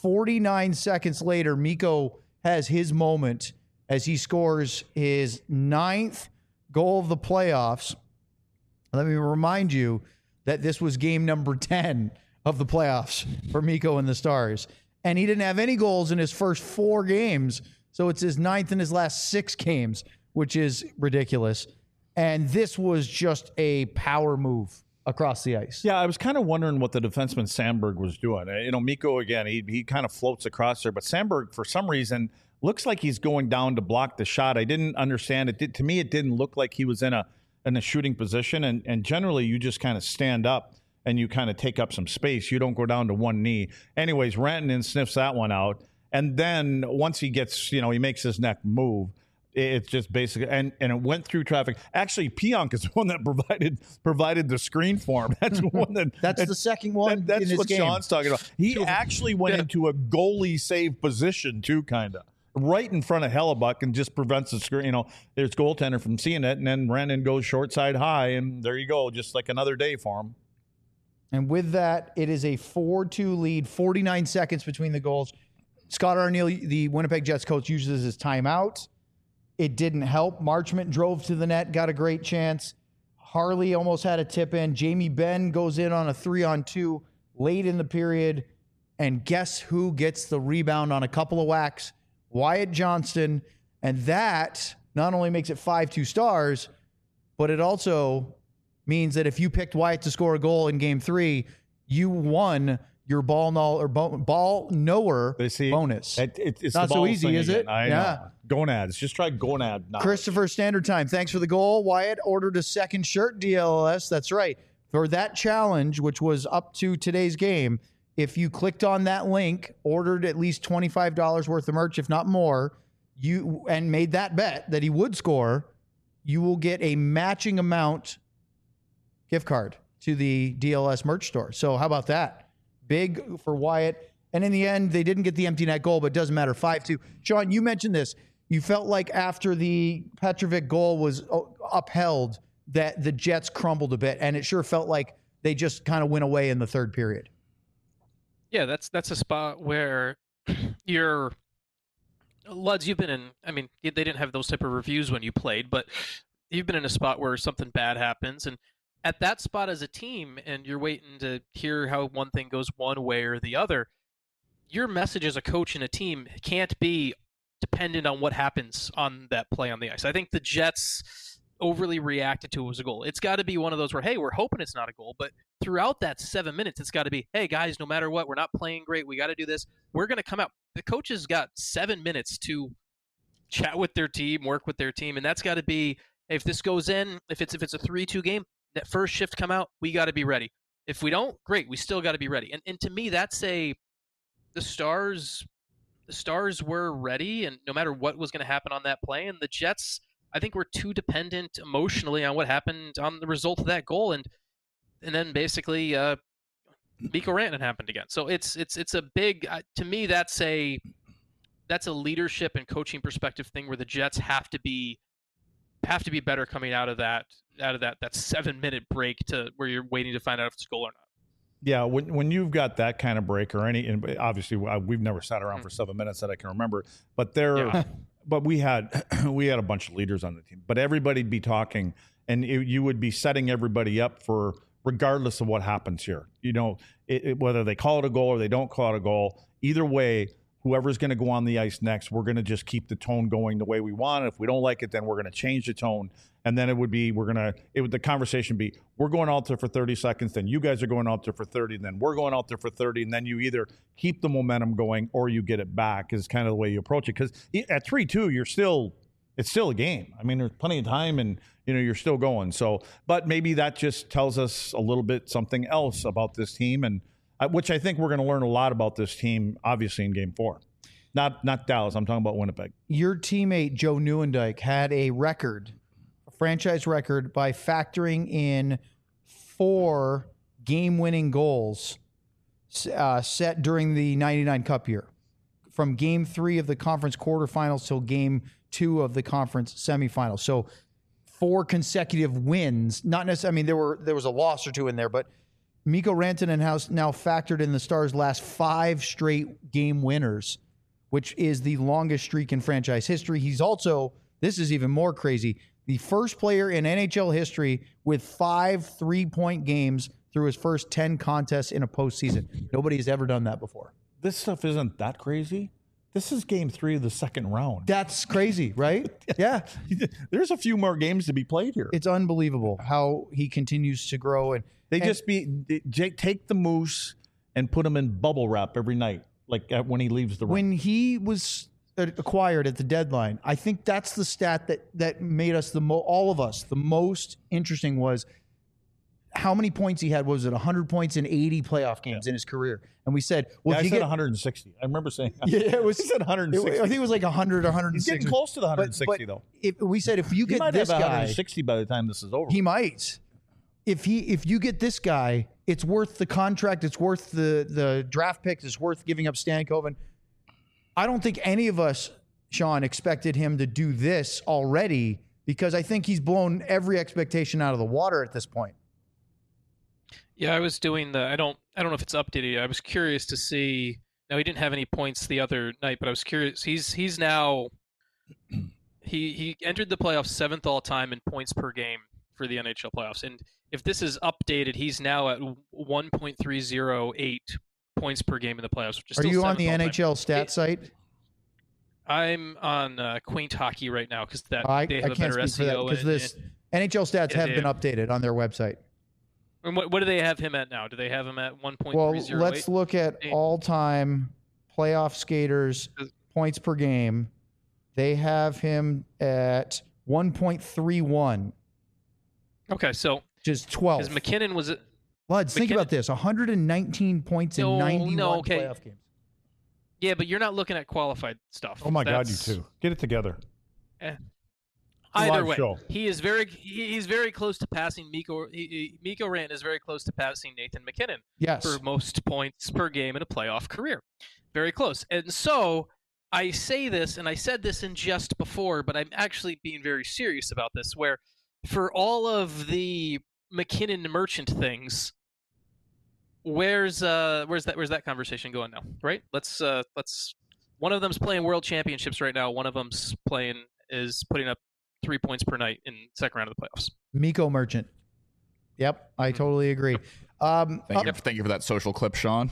49 seconds later, Mikko has his moment as he scores his 9th goal of the playoffs. Let me remind you that this was game number 10 of the playoffs for Mikko and the Stars. And he didn't have any goals in his first 4 games. So it's his 9th in his last 6 games, which is ridiculous. And this was just a power move across the ice. Yeah, I was kind of wondering what the defenseman Sandberg was doing. Mikko, again, he kind of floats across there. But Sandberg, for some reason, looks like he's going down to block the shot. I didn't understand it. To me, it didn't look like he was in a shooting position. And generally, you just kind of stand up and you kind of take up some space. You don't go down to one knee. Anyways, Rantanen sniffs that one out. And then once he gets, he makes his neck move, it's just basically, and it went through traffic. Actually, Pionk is the one that provided the screen for him. That's the one that's the second one. That's in this what game. Sean's talking about. He actually went into a goalie save position too, kind of right in front of Hellebuyck, and just prevents the screen. There's goaltender from seeing it, and then Rantanen goes short side high, and there you go, just like another day for him. And with that, it is a 4-2 lead. 49 seconds between the goals. Scott Arniel, the Winnipeg Jets coach, uses his timeout. It didn't help. Marchment drove to the net, got a great chance. Harley almost had a tip in. Jamie Benn goes in on a 3-on-2 late in the period. And guess who gets the rebound on a couple of whacks? Wyatt Johnston. And that not only makes it 5-2 Stars, but it also means that if you picked Wyatt to score a goal in Game 3, you won your ball knower bonus. It's not so easy, is it? I know. Gonads. Just try gonad. Christopher Standard Time. Thanks for the goal. Wyatt ordered a second shirt, DLS. That's right. For that challenge, which was up to today's game, if you clicked on that link, ordered at least $25 worth of merch, if not more, and made that bet that he would score, you will get a matching amount gift card to the DLS merch store. So how about that? Big for Wyatt. And in the end, they didn't get the empty net goal, but it doesn't matter. 5-2. Sean, you mentioned this. You felt like after the Petrovic goal was upheld that the Jets crumbled a bit, and it sure felt like they just kind of went away in the third period. Yeah, that's a spot where Luds, you've been in, they didn't have those type of reviews when you played, but you've been in a spot where something bad happens, and at that spot as a team, and you're waiting to hear how one thing goes one way or the other, your message as a coach and a team can't be dependent on what happens on that play on the ice. I think the Jets overly reacted to it was a goal. It's got to be one of those where, hey, we're hoping it's not a goal, but throughout that 7 minutes, it's got to be, hey, guys, no matter what, we're not playing great. We got to do this. We're going to come out. The coaches got 7 minutes to chat with their team, work with their team, and that's got to be, if this goes in, if it's a 3-2 game, that first shift come out, we got to be ready. If we don't, great, we still got to be ready. And to me, that's the Stars were ready, and no matter what was going to happen on that play, and the Jets, I think, were too dependent emotionally on what happened on the result of that goal, and then basically Mikko Rantanen happened again. So it's a big, to me, that's a leadership and coaching perspective thing where the Jets have to be have to be better coming out of that 7-minute break to where you're waiting to find out if it's a goal or not. Yeah, when you've got that kind of break or any, and obviously we've never sat around for 7 minutes that I can remember, but but we had a bunch of leaders on the team, but everybody'd be talking, and you would be setting everybody up for regardless of what happens here. You know, whether they call it a goal or they don't call it a goal, either way, whoever's going to go on the ice next, we're going to just keep the tone going the way we want. If we don't like it, then we're going to change the tone. And then the conversation be, we're going out there for 30 seconds, then you guys are going out there for 30, and then we're going out there for 30, and then you either keep the momentum going or you get it back is kind of the way you approach it. Because at 3-2, it's still a game. I mean, there's plenty of time, and you're still going. So, but maybe that just tells us a little bit something else about this team, and which I think we're going to learn a lot about this team, obviously, in Game 4. Not Dallas. I'm talking about Winnipeg. Your teammate, Joe Nieuwendyk, had a franchise record, by factoring in 4 game-winning goals set during the 99 Cup year. From Game 3 of the conference quarterfinals till Game 2 of the conference semifinals. So 4 consecutive wins. Not necessarily, I mean, there was a loss or two in there, but Mikko Rantanen has now factored in the Stars' last 5 straight game winners, which is the longest streak in franchise history. He's also, this is even more crazy, the first player in NHL history with 5 3-point games through his first 10 contests in a postseason. Nobody has ever done that before. This stuff isn't that crazy. This is Game 3 of the second round. That's crazy, right? Yeah. There's a few more games to be played here. It's unbelievable how he continues to grow. And take the Moose and put him in bubble wrap every night, like when he leaves the room. When he was acquired at the deadline, I think that's the stat that made us all of us the most interesting was how many points he had. Was it 100 points in 80 playoff games in his career? And we said, well, I said 160. I remember saying, yeah, it was. He said 160. I think it was like 100 or 160. He's getting close to the 160 though. We said if you get this guy, 160 by the time this is over. He might. If you get this guy, it's worth the contract. It's worth the draft picks. It's worth giving up Stankoven. I don't think any of us, Sean, expected him to do this already, because I think he's blown every expectation out of the water at this point. Yeah, I was doing I don't know if it's updated yet. I was curious to see. Now, he didn't have any points the other night, but I was curious. He's now he entered the playoffs 7th all time in points per game for the NHL playoffs. And if this is updated, he's now at 1.308 points per game in the playoffs. Which is Are still you on the NHL stat site? I'm on Quaint Hockey right now because they have I a can't better speak for that, SEO. because this NHL stats have been updated on their website. And what do they have him at now? Do they have him at 1.308? Well, let's look at all-time playoff skaters points per game. They have him at 1.31. Okay, so which is 12. Because McKinnon was it? Lads, think about this: 119 points in 91 playoff games. Yeah, but you're not looking at qualified stuff. Oh my God, you two, get it together. Either way, he's very close to passing Mikko. Mikko Rantanen is very close to passing Nathan McKinnon for most points per game in a playoff career. Very close. And so I say this, and I said this in just before, but I'm actually being very serious about this, where for all of the McKinnon Merchant things, where's that conversation going now? Right? Let's one of them's playing World Championships right now. One of them's is putting up 3 points per night in second round of the playoffs. Mikko Merchant. Yep, I totally agree. Thank you for that social clip, Sean.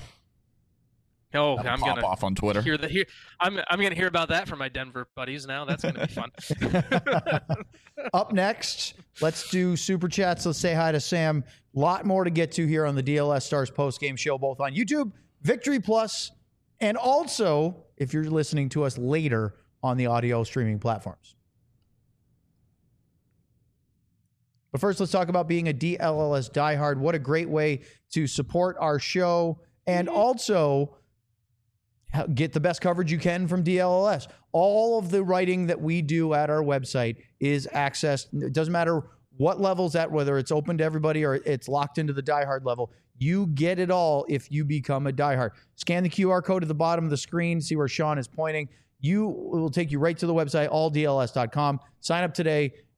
Oh, I'm gonna pop off on Twitter. I'm gonna hear about that from my Denver buddies now. That's gonna be fun. Up next, let's do super chats. Let's say hi to Sam. A lot more to get to here on the DLS Stars post game show, both on YouTube, Victory Plus, and also if you're listening to us later on the audio streaming platforms. But first, let's talk about being a DLLS diehard. What a great way to support our show and also get the best coverage you can from DLLS. All of the writing that we do at our website is accessed. It doesn't matter what level's at, whether it's open to everybody or it's locked into the diehard level. You get it all if you become a diehard. Scan the QR code at the bottom of the screen, see where Sean is pointing. It will take you right to the website, alldls.com. Sign up today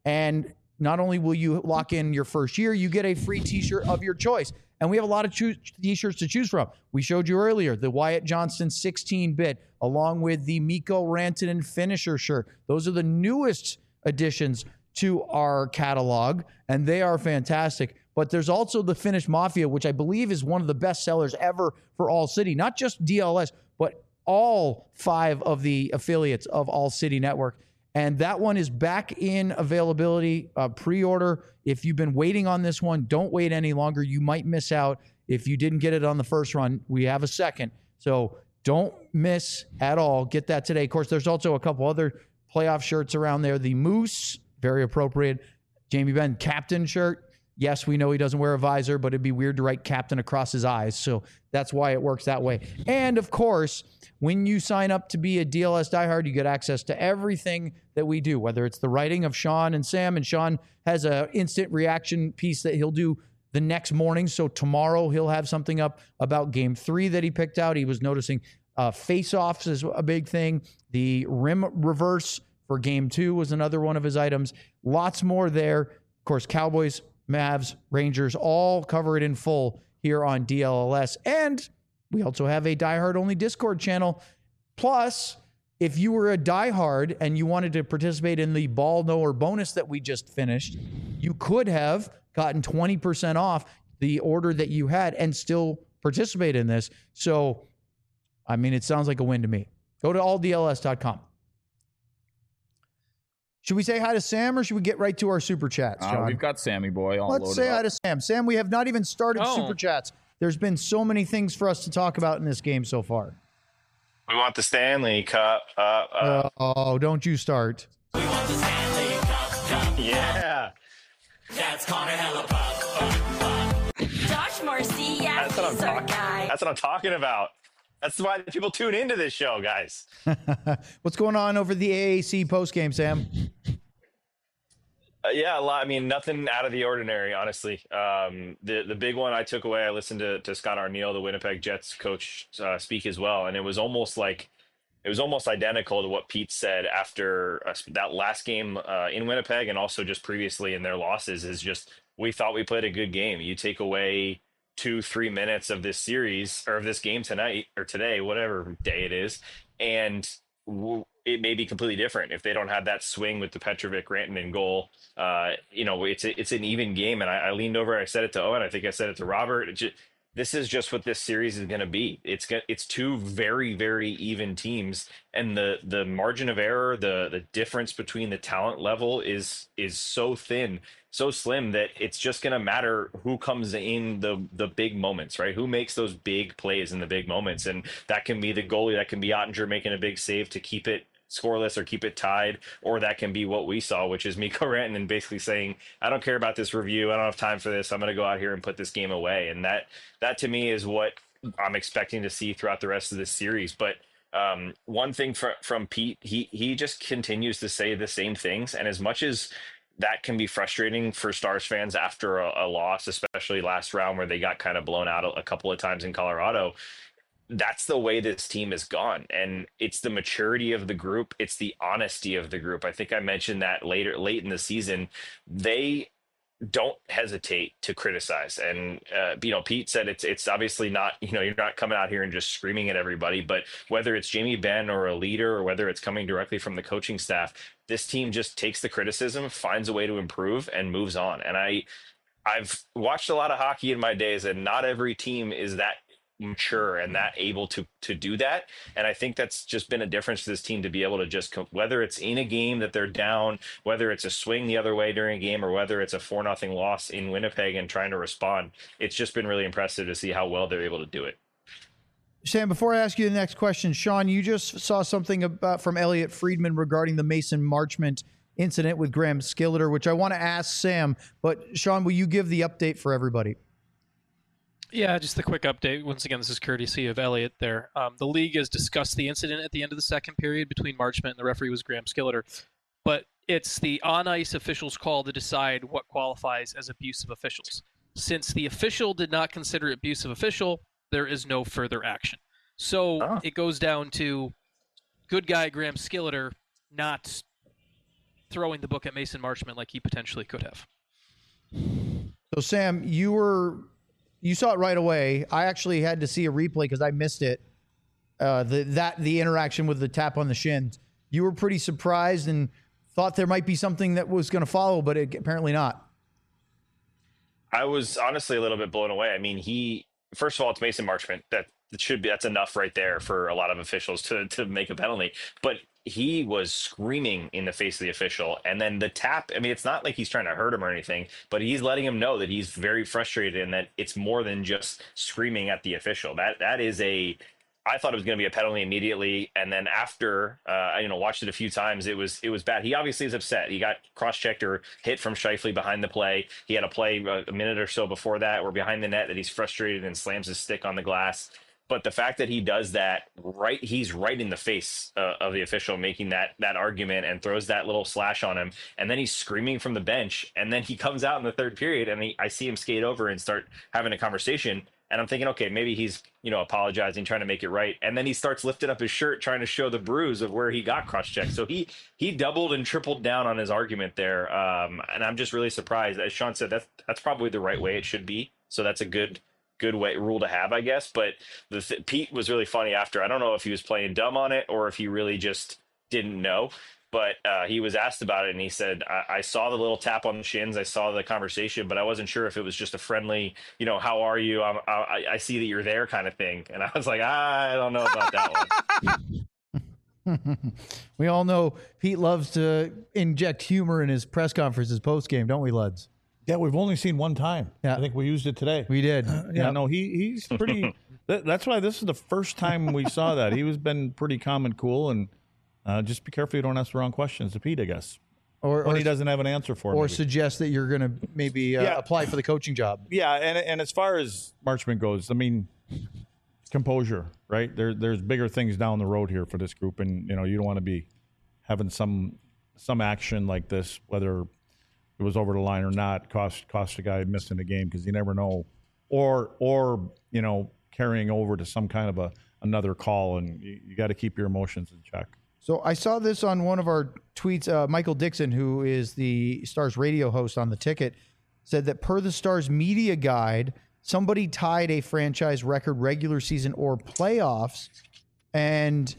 And not only will you lock in your first year, you get a free t-shirt of your choice. And we have a lot of t-shirts to choose from. We showed you earlier the Wyatt Johnston 16-bit, along with the Mikko Rantanen finisher shirt. Those are the newest additions to our catalog, and they are fantastic. But there's also the Finnish Mafia, which I believe is one of the best sellers ever for All City. Not just DLS, but all 5 of the affiliates of All City Network. And that one is back in availability, pre-order. If you've been waiting on this one, don't wait any longer. You might miss out if you didn't get it on the first run. We have a second. So don't miss at all. Get that today. Of course, there's also a couple other playoff shirts around there. The Moose, very appropriate. Jamie Benn captain shirt. Yes, we know he doesn't wear a visor, but it'd be weird to write captain across his eyes. So that's why it works that way. And of course, when you sign up to be a DLS diehard, you get access to everything that we do, whether it's the writing of Sean and Sam. And Sean has an instant reaction piece that he'll do the next morning. So tomorrow he'll have something up about Game 3 that he picked out. He was noticing face-offs is a big thing. The rim reverse for Game 2 was another one of his items. Lots more there. Of course, Cowboys, Mavs, Rangers, all cover it in full here on DLLS. And we also have a diehard-only Discord channel. Plus, if you were a diehard and you wanted to participate in the ball knower bonus that we just finished, you could have gotten 20% off the order that you had and still participate in this. So, I mean, it sounds like a win to me. Go to alldls.com. Should we say hi to Sam or should we get right to our super chats, John? We've got Sammy Boy all Let's loaded say up. hi to Sam. Sam, we have not even started super chats. There's been so many things for us to talk about in this game so far. We want the Stanley Cup. Oh, don't you start. We want the Stanley Cup. Yeah. That's Connor Hellebuyck. Josh Marcy, yeah, That's what I'm he's our talking. guy. That's what I'm talking about. That's why people tune into this show, guys. What's going on over the AAC postgame, Sam? Yeah, a lot. I mean, nothing out of the ordinary, honestly. The big one I took away, I listened to Scott Arniel, the Winnipeg Jets coach, speak as well, and it was almost identical to what Pete said after that last game in Winnipeg, and also just previously in their losses. Is just, we thought we played a good game. You take away 2-3 minutes of this series or of this game tonight or today, whatever day it is, and it may be completely different if they don't have that swing with the Petrovic Rantanen goal. It's an even game, and I leaned over, I said it to Owen, I think I said it to Robert. This is just what this series is going to be. It's two very, very even teams, and the margin of error, the difference between the talent level is so thin, so slim, that it's just going to matter who comes in the big moments, right? Who makes those big plays in the big moments, and that can be the goalie, that can be Ottinger making a big save to keep it scoreless or keep it tied, or that can be what we saw, which is Mikko Rantanen basically saying, I don't care about this review, I don't have time for this, I'm going to go out here and put this game away. And that to me is what I'm expecting to see throughout the rest of this series. But one thing from Pete, he just continues to say the same things, and as much as that can be frustrating for Stars fans after a loss, especially last round where they got kind of blown out a couple of times in Colorado, that's the way this team has gone. And it's the maturity of the group. It's the honesty of the group. I think I mentioned that late in the season. They don't hesitate to criticize. And, Pete said it's obviously not, you're not coming out here and just screaming at everybody, but whether it's Jamie Benn or a leader, or whether it's coming directly from the coaching staff, this team just takes the criticism, finds a way to improve, and moves on. And I've watched a lot of hockey in my days, and not every team is that mature and that able to do that. And I think that's just been a difference for this team, to be able to just, whether it's in a game that they're down, whether it's a swing the other way during a game, or whether it's a 4-0 loss in Winnipeg and trying to respond, it's just been really impressive to see how well they're able to do it. Sam, before I ask you the next question, Sean, you just saw something about from Elliot Friedman regarding the Mason Marchment incident with Graham Skilleter, which I want to ask Sam, but Sean, will you give the update for everybody? Yeah, just a quick update. Once again, this is courtesy of Elliot there. The league has discussed the incident at the end of the second period between Marchment and the referee was Graham Skilleter. But it's the on-ice officials' call to decide what qualifies as abusive officials. Since the official did not consider it abusive official, there is no further action. So It goes down to good guy Graham Skilleter not throwing the book at Mason Marchment like he potentially could have. So Sam, you saw it right away. I actually had to see a replay because I missed it. The interaction with the tap on the shins. You were pretty surprised and thought there might be something that was going to follow, but apparently not. I was honestly a little bit blown away. I mean, first of all, it's Mason Marchment. That's enough right there for a lot of officials to make a penalty. But he was screaming in the face of the official, and then the tap. I mean, it's not like he's trying to hurt him or anything, but he's letting him know that he's very frustrated and that it's more than just screaming at the official. That is I thought it was going to be a penalty immediately, and then after I watched it a few times, it was bad. He obviously is upset. He got cross-checked or hit from Scheifele behind the play. He had a play a minute or so before that, or behind the net, that he's frustrated and slams his stick on the glass. But the fact that he does that he's right in the face of the official making that argument and throws that little slash on him, and then he's screaming from the bench, and then he comes out in the third period, and I see him skate over and start having a conversation. And I'm thinking, okay, maybe he's, apologizing, trying to make it right. And then he starts lifting up his shirt, trying to show the bruise of where he got cross-checked. So he doubled and tripled down on his argument there. And I'm just really surprised. As Sean said, that's probably the right way it should be. So that's a good rule to have, I guess. But Pete was really funny after. I don't know if he was playing dumb on it or if he really just didn't know. But he was asked about it, and he said, I saw the little tap on the shins. I saw the conversation, but I wasn't sure if it was just a friendly, how are you? I see that you're there kind of thing. And I was like, I don't know about that one. We all know Pete loves to inject humor in his press conferences post-game, don't we, Luds? Yeah, we've only seen one time. Yeah. I think we used it today. We did. Yeah, no, he's pretty. That's why this is the first time we saw that. He was been pretty calm and cool, and just be careful you don't ask the wrong questions to Pete, I guess. Or he doesn't have an answer for Or maybe. Suggest that you're going to maybe apply for the coaching job. Yeah, and as far as Marchment goes, I mean, composure, right? There's bigger things down the road here for this group, and you don't want to be having some action like this, whether it was over the line or not, cost a guy missing a game, because you never know, or carrying over to some kind of another call, and you got to keep your emotions in check. So I saw this on one of our tweets. Michael Dixon, who is the Stars radio host on The Ticket, said that per the Stars media guide, somebody tied a franchise record regular season or playoffs, and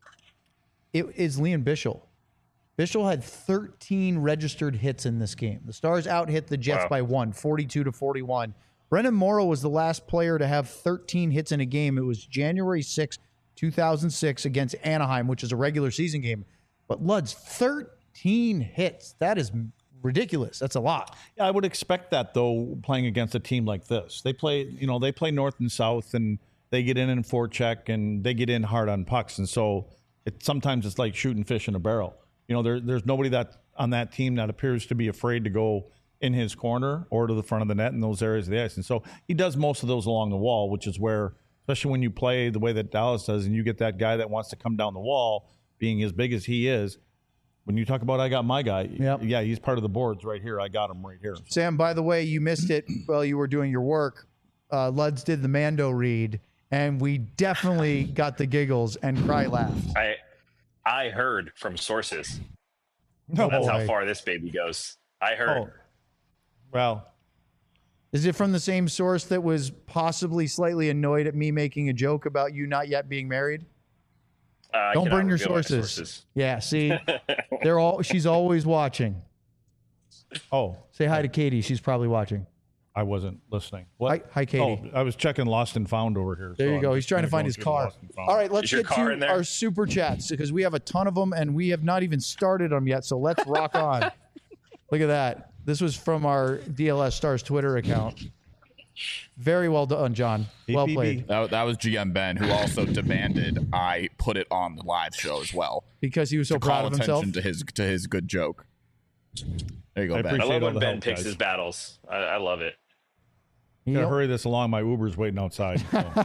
it is Liam Bichsel. Bichsel had 13 registered hits in this game. The Stars out-hit the Jets by 42-41. Brendan Morrow was the last player to have 13 hits in a game. It was January 6th, 2006 against Anaheim, which is a regular season game. But Luds, 13 hits. That is ridiculous. That's a lot. Yeah, I would expect that, though, playing against a team like this. They play north and south, and they get in forecheck, and they get in hard on pucks. And so sometimes it's like shooting fish in a barrel. There's nobody that on that team that appears to be afraid to go in his corner or to the front of the net in those areas of the ice. And so he does most of those along the wall, which is where, especially when you play the way that Dallas does, and you get that guy that wants to come down the wall, being as big as he is. When you talk about I got my guy, yeah, he's part of the boards right here. I got him right here. Sam, by the way, you missed it while you were doing your work. Luds did the Mando read, and we definitely got the giggles and cry laughed. I heard from sources. No, that's how far this baby goes. I heard. Oh. Well, is it from the same source that was possibly slightly annoyed at me making a joke about you not yet being married? Don't burn your sources. Yeah, see, she's always watching. Oh, say hi to Katie. She's probably watching. I wasn't listening. What? Hi, Katie. Oh, I was checking Lost and Found over here. There you go. He's trying to find his car. All right, let's get to our super chats because we have a ton of them and we have not even started them yet. So let's rock on. Look at that. This was from our DLS Stars Twitter account. Very well done, John. Well played. That was GM Ben, who also demanded I put it on the live show as well because he was so proud of himself. To his good joke. There you go, Ben. I love when Ben picks his battles. I love it. Gotta hurry this along. My Uber's waiting outside. So.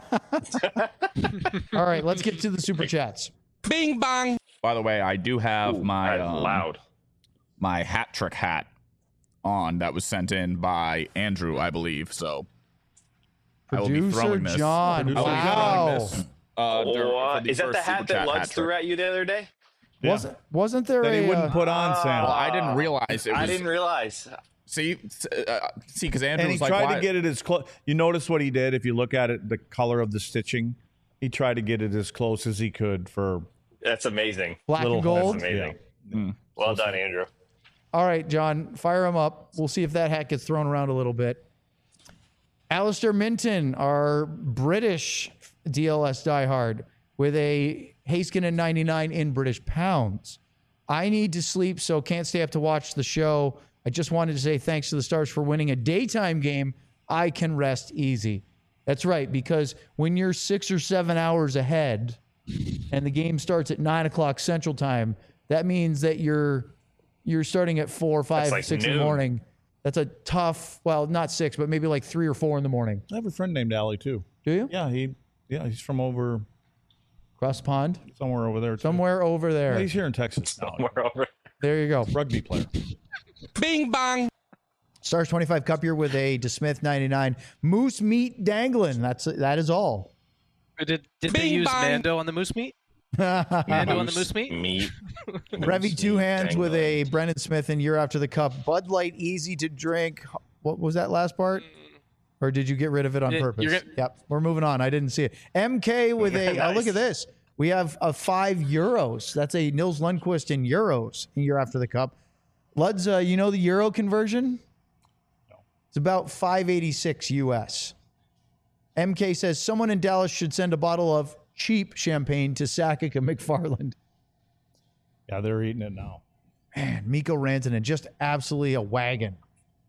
All right, let's get to the super chats. Bing bang. By the way, I do have my hat trick hat on that was sent in by Andrew, I believe. So I will be throwing this. John, wow. Is that the hat that Luds threw at you the other day? Yeah. Wasn't there That a he wouldn't put on, Sam. Well, I didn't realize it was. I didn't realize. See, because Andrew And he was like, tried why? to get it as close. You notice what he did? If you look at it, the color of the stitching, he tried to get it as close as he could for That's amazing. black little- and gold? That's amazing. Yeah. Well done, Andrew. All right, John, fire him up. We'll see if that hat gets thrown around a little bit. Alistair Minton, our British DLS diehard, with a Haskinen 99 in British pounds. I need to sleep, so can't stay up to watch the show. I just wanted to say thanks to the Stars for winning a daytime game. I can rest easy. That's right, because when you're 6 or 7 hours ahead and the game starts at 9 o'clock Central Time, that means that you're starting at 4, 5, like 6 in the noon. morning. That's a tough, well, not 6, but maybe like 3 or 4 in the morning. I have a friend named Allie too. Do you? Yeah, he's from over Across the pond? somewhere over there. Too. Somewhere over there. Yeah, he's here in Texas now. We're over. There you go. Rugby player. Bing bong. Stars 25 Cup here with a DeSmith 99. Moose meat dangling. That is all. Did they Bing use bong. Mando on the moose meat? Mando on the moose meat? Meat. Revy Two Hands with a Brendan Smith in Year After the Cup. Bud Light, easy to drink. What was that last part? Or did you get rid of it on Yeah, purpose? you're gonna- Yep, we're moving on. I didn't see it. MK with a, Nice. look at this. We have a €5. That's a Nils Lundqvist in euros in Year After the Cup. Luds, you know the euro conversion? No. It's about 586 US. MK says someone in Dallas should send a bottle of cheap champagne to Sakic and McFarland. Yeah, they're eating it now. Man, Mikko Rantanen, just absolutely a wagon.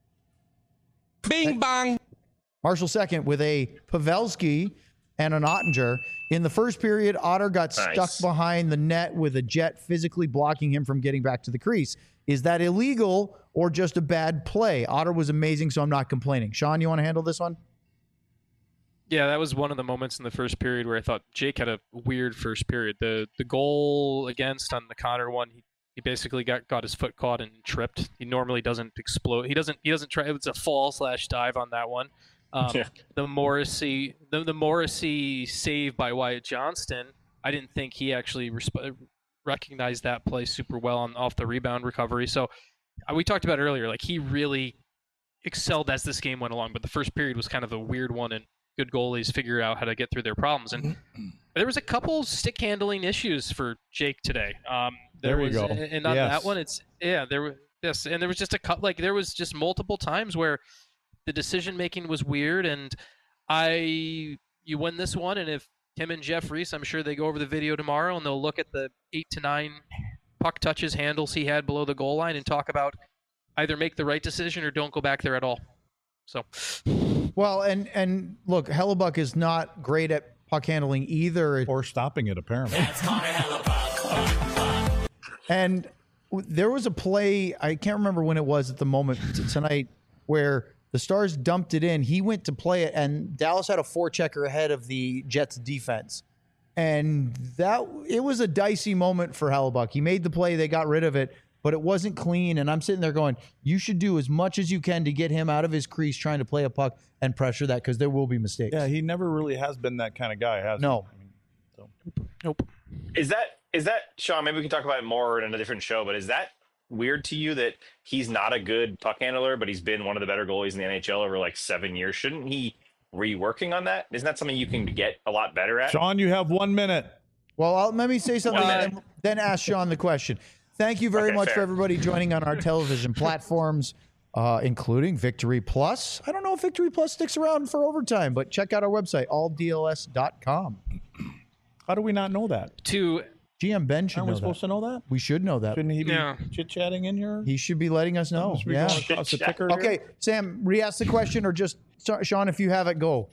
Bing bong. Marshall second with a Pavelski and an Ottinger. In the first period, Otter got Nice. stuck behind the net with a Jet physically blocking him from getting back to the crease. Is that illegal or just a bad play? Otter was amazing, so I'm not complaining. Sean, you want to handle this one? Yeah, that was one of the moments in the first period where I thought Jake had a weird first period. The goal against on the Connor one, he basically got his foot caught and tripped. He normally doesn't explode. He doesn't try. It's a fall/dive on that one. Yeah. The Morrissey save by Wyatt Johnston, I didn't think he actually recognized that play super well off the rebound recovery. So we talked about it earlier, like he really excelled as this game went along, but the first period was kind of a weird one, and good goalies figure out how to get through their problems. And there was a couple stick handling issues for Jake today. There you go. And on Yes. that one, and there was just a couple, like there was just multiple times where the decision making was weird, and you win this one, and if him and Jeff Reese, I'm sure they go over the video tomorrow and they'll look at the 8 to 9 puck touches handles he had below the goal line and talk about either make the right decision or don't go back there at all. So, Well, and look, Hellebuck is not great at puck handling either. Or stopping it, apparently. That's Connor Hellebuck. And there was a play, I can't remember when it was at the moment tonight, where the Stars dumped it in. He went to play it, and Dallas had a forechecker ahead of the Jets defense. And it was a dicey moment for Hellebuck. He made the play, they got rid of it, but it wasn't clean. And I'm sitting there going, you should do as much as you can to get him out of his crease trying to play a puck and pressure that, because there will be mistakes. Yeah, he never really has been that kind of guy, has No. he? I mean, so. nope. Is that Sean? Maybe we can talk about it more in a different show. But is that weird to you that he's not a good puck handler, but he's been one of the better goalies in the NHL over like 7 years? Shouldn't he reworking on that? Isn't that something you can get a lot better at? Sean, you have 1 minute. Well, let me say something 1 minute. and then ask Sean the question. Thank you very Okay, much fair. for everybody joining on our television platforms, including Victory Plus. I don't know if Victory Plus sticks around for overtime, but check out our website, alldls.com. How do we not know that? GM Ben should Aren't we know supposed that. to know that? We should know that. Shouldn't he be Yeah. chit-chatting in here? He should be letting us know. Should we Yeah. go across the ticker here? Okay, Sam, re-ask the question, or just, Sean, if you have it, go.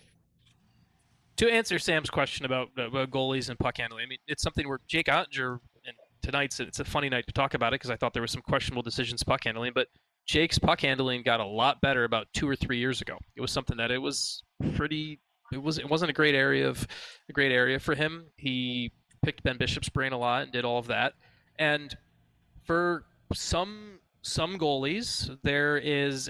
To answer Sam's question about goalies and puck handling, I mean, it's something where Jake Ottinger, and tonight's it's a funny night to talk about it because I thought there were some questionable decisions puck handling, but Jake's puck handling got a lot better about 2 or 3 years ago. It was something that it wasn't a great area for him. He picked Ben Bishop's brain a lot and did all of that. And for some goalies, there is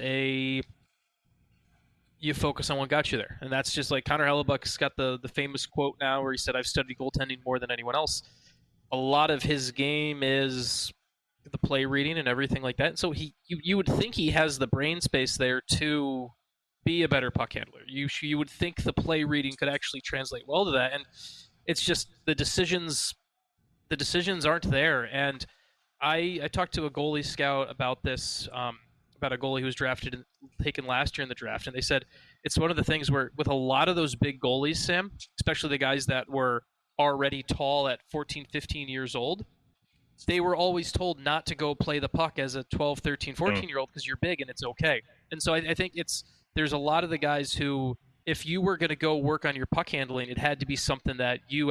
you focus on what got you there. And that's just like Connor Hellebuck's got the famous quote now where he said, I've studied goaltending more than anyone else. a lot of his game is the play reading and everything like that. So you would think he has the brain space there to be a better puck handler. You would think the play reading could actually translate well to that, and it's just the decisions aren't there. And I talked to a goalie scout about this, about a goalie who was drafted and taken last year in the draft, and they said it's one of the things where with a lot of those big goalies, Sam, especially the guys that were already tall at 14, 15 years old, they were always told not to go play the puck as a 12, 13, 14-year-old because you're big and it's okay. And so I think there's a lot of the guys who, if you were going to go work on your puck handling, it had to be something that you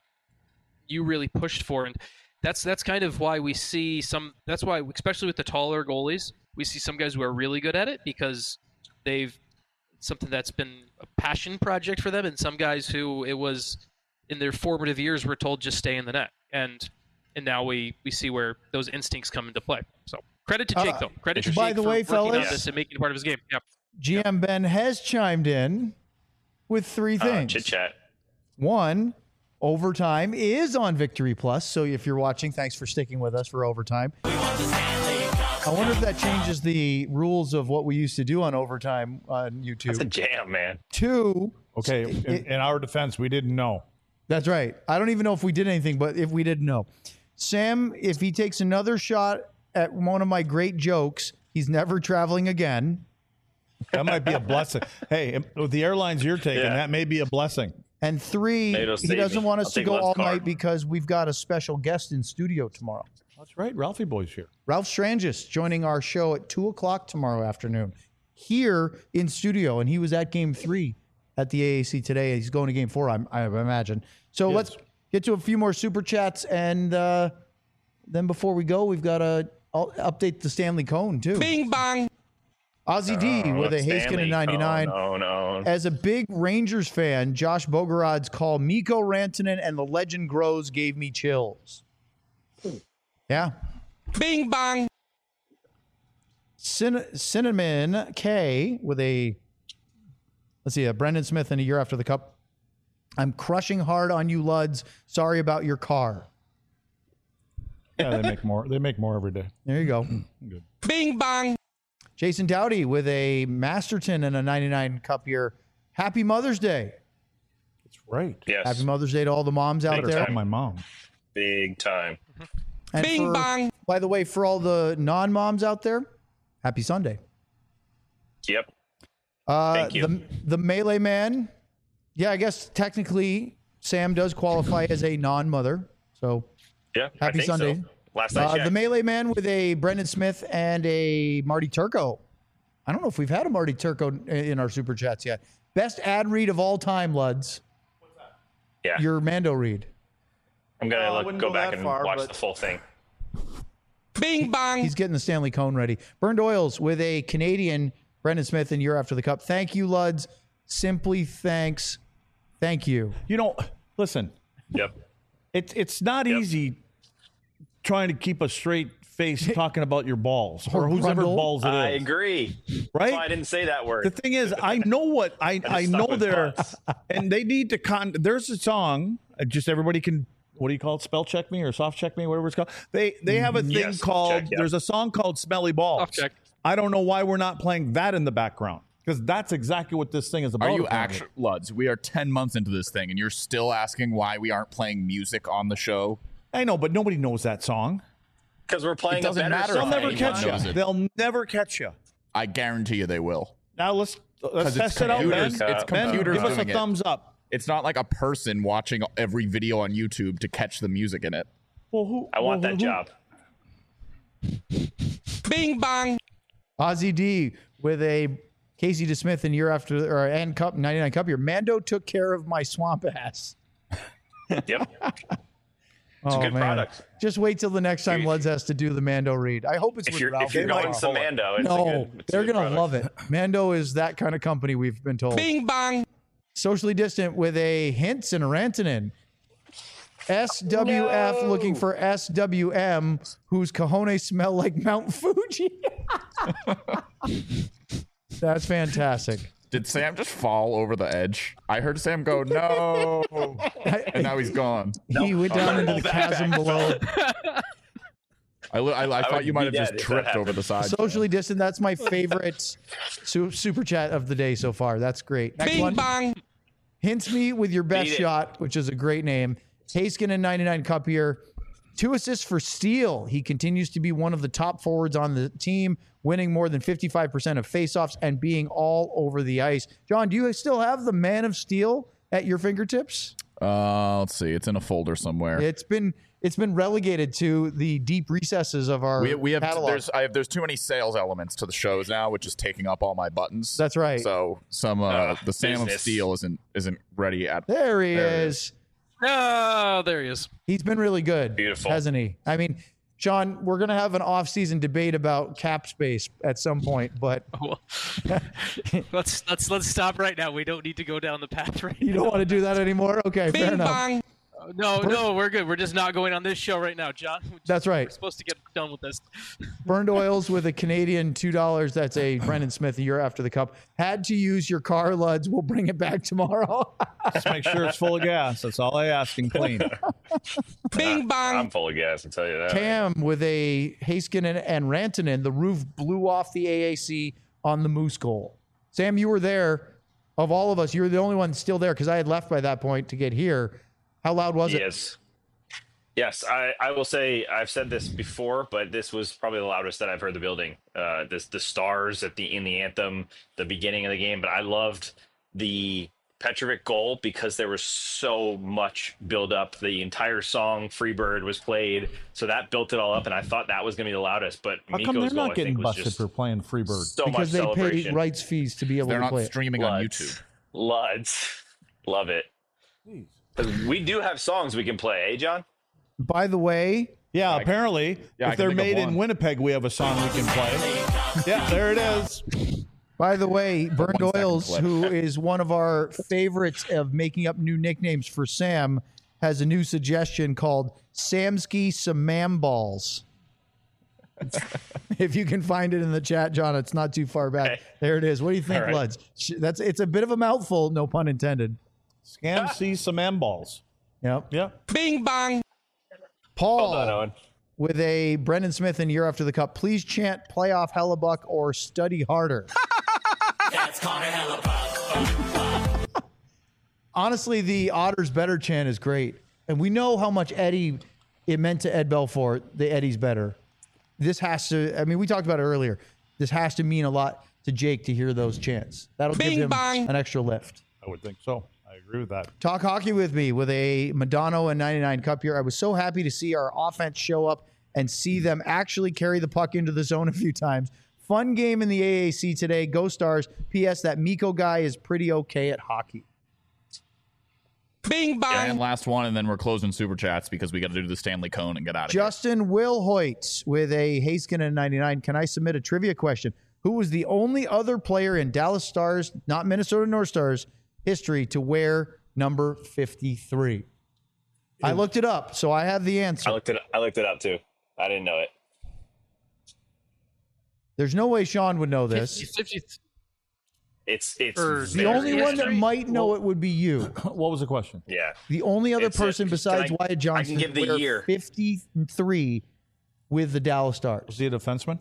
really pushed for. And that's kind of why we see that's why, especially with the taller goalies, we see some guys who are really good at it because they've something that's been a passion project for them, and some guys who it was in their formative years were told just stay in the net. And now we see where those instincts come into play. So credit to Jake, though. Credit to Jake by the way, for working on fellas, this and making it part of his game. Yep. GM Ben has chimed in with three things. Chit chat. One, overtime is on Victory Plus. So if you're watching, thanks for sticking with us for overtime. I wonder if that changes the rules of what we used to do on overtime on YouTube. That's a jam, man. Two. Okay, in our defense, we didn't know. That's right. I don't even know if we did anything, but if we didn't know. Sam, if he takes another shot at one of my great jokes, he's never traveling again. That might be a blessing. Hey, with the airlines you're taking, that may be a blessing. And three, he doesn't want us to go all night because we've got a special guest in studio tomorrow. That's right. Ralphie Boy's here. Ralph Strangis joining our show at 2 o'clock tomorrow afternoon here in studio. And he was at game 3 at the AAC today. He's going to game 4, I imagine. So let's get to a few more super chats. And then before we go, we've got to update the Stanley Cone, too. Bing bang. Ozzy D with a Heiskanen 99. No. As a big Rangers fan, Josh Bogorod's call Mikko Rantanen and the legend grows gave me chills. Yeah. Bing bang. Cinnamon K with a, let's see, a Brendan Smith in a year after the cup. I'm crushing hard on you, Luds. Sorry about your car. Yeah, they make more. They make more every day. There you go. Good. Bing bang. Jason Dowdy with a Masterton and a 99 cup year. Happy Mother's Day. That's right. Yes. Happy Mother's Day to all the moms out there. Tell my mom. Big time. And Bing bang. By the way, for all the non-moms out there, happy Sunday. Yep. Thank you. The Melee Man. Yeah, I guess technically Sam does qualify as a non-mother. So Yeah. happy I think Sunday. So. Last I checked. The Melee Man with a Brendan Smith and a Marty Turco. I don't know if we've had a Marty Turco in our super chats yet. Best ad read of all time, Luds. Yeah. Your Mando read. I'm going to wouldn't go go back that and far, watch but- the full thing. Bing bang. He's getting the Stanley Cone ready. Burned Oils with a Canadian Brendan Smith in year after the cup. Thank you, Luds. Simply thanks. Thank you. You know, listen, Yep. it's not easy trying to keep a straight face talking about your balls or whoever Grundle. balls it is. I agree. Right? That's why I didn't say that word. The thing is, I know what I stuck know with there, butts. and they need to there's a song. Just everybody can. What do you call it? Spell check me or soft check me, whatever it's called. They have a thing Yes, soft called. check, yeah. There's a song called "Smelly Balls." Soft check. I don't know why we're not playing that in the background because that's exactly what this thing is about. Are you apparently. actually, Luds? We are 10 months into this thing, and you're still asking why we aren't playing music on the show? I know, but nobody knows that song. Because we're playing It doesn't a better matter They'll song. if never anyone catch knows you. it. They'll never catch you. I guarantee you they will. Now let's Because it's test it out, Ben. computers. It's Ben, computers give us a doing it. thumbs up. It's not like a person watching every video on YouTube to catch the music in it. Well, who? I want well, that who- job. Bing bang. Ozzy D with a Casey DeSmith in year after or and cup 99 cup year. Mando took care of my swamp ass. Yep. It's a good product. Just wait till the next time Luds has to do the Mando read. I hope it's If with you're Ralph. going some Mando, it's no, it's they're a good gonna product. love it. Mando is that kind of company. We've been told. Bing bang. Socially distant with a Hintz and a Rantanen. SWF looking for SWM, whose cojones smell like Mount Fuji. That's fantastic. Did Sam just fall over the edge? I heard Sam go, no. And now he's gone. He went down into the chasm below. I thought you might have just dead if that tripped over happened. the side. Socially distant. That's my favorite super chat of the day so far. That's great. Next Bing one. bang. Hints me with your best Beat it. shot, which is a great name. Haskin in 99 Cup here. 2 assists for Steele. He continues to be one of the top forwards on the team, winning more than 55% of faceoffs and being all over the ice. John, do you still have the Man of Steel at your fingertips? Let's see. It's in a folder somewhere. It's been relegated to the deep recesses of our We have catalog. there's too many sales elements to the shows now, which is taking up all my buttons. That's right. So the Sam of business. Steel isn't ready at. There he There it is. Oh, there he is. He's been really good. Beautiful. Hasn't he? I mean, Sean, we're going to have an off-season debate about cap space at some point, but Well, let's stop right now. We don't need to go down the path right you now. don't want to do that anymore? Okay, fair Bing enough. bang. No, we're good. We're just not going on this show right now, John. That's right. We're supposed to get done with this. Burned Oils with a Canadian $2. That's a Brendan Smith a year after the cup. Had to use your car, Luds. We'll bring it back tomorrow. Just make sure it's full of gas. That's all I ask and clean. Bing bang. I'm full of gas, I'll tell you that. Cam with a Heiskanen and Rantanen. The roof blew off the AAC on the Moose goal. Sam, you were there. Of all of us, you were the only one still there because I had left by that point to get here. How loud was it? Yes, I will say I've said this before, but this was probably the loudest that I've heard the building. The stars in the anthem, the beginning of the game, but I loved the Petrovic goal because there was so much build up. The entire song Freebird was played, so that built it all up, and I thought that was going to be the loudest. But How come Mikko's they're goal, not I getting think, was busted just for playing Freebird? so Because much they pay celebration. rights fees to be able They're to not play it. streaming on Luds. YouTube. Luds. Love it. 'Cause we do have songs we can play, eh, John? By the way, Yeah, apparently, I if can they're think of made in one. Winnipeg, we have a song we can play. Yeah, there it is. Burned 1 second Oils, clip. who is one of our favorites of making up new nicknames for Sam, has a new suggestion called Samsky Samam Balls. If you can find it in the chat, John, it's not too far back. Okay. There it is. What do you think, All right. Luds? It's a bit of a mouthful, no pun intended. Scam see some M balls. Yep. Yeah. Bing bang. Paul Well done, Owen. with a Brendan Smith in year after the cup. Please chant playoff Hellebuck or study harder. That's Connor Hellebuck. Honestly, the Otters better chant is great. And we know how much Eddie it meant to Ed Belfort, the Eddie's better. This has to, I mean, we talked about it earlier. This has to mean a lot to Jake to hear those chants. That'll Bing give him bang. an extra lift. I would think so. I agree with that. Talk hockey with me with a Madonna and 99 Cup here. I was so happy to see our offense show up and see them actually carry the puck into the zone a few times. Fun game in the AAC today. Go Stars. P.S. That Mikko guy is pretty okay at hockey. Bing And bang. last one, and then we're closing super chats because we got to do the Stanley Cone and get out of here. Justin Wilhoit with a Heiskanen 99. Can I submit a trivia question? Who was the only other player in Dallas Stars, not Minnesota North Stars, history to wear number 53? I looked it up, so I have the answer. I looked it up too. I didn't know it. There's no way Sean would know this. 50, It's Or The very only one that history? might know it would be you. What was the question? yeah. The only other It's a- person besides can I- Wyatt Johnson I can give to the wear year. 53 with the Dallas Was Stars. he a defenseman?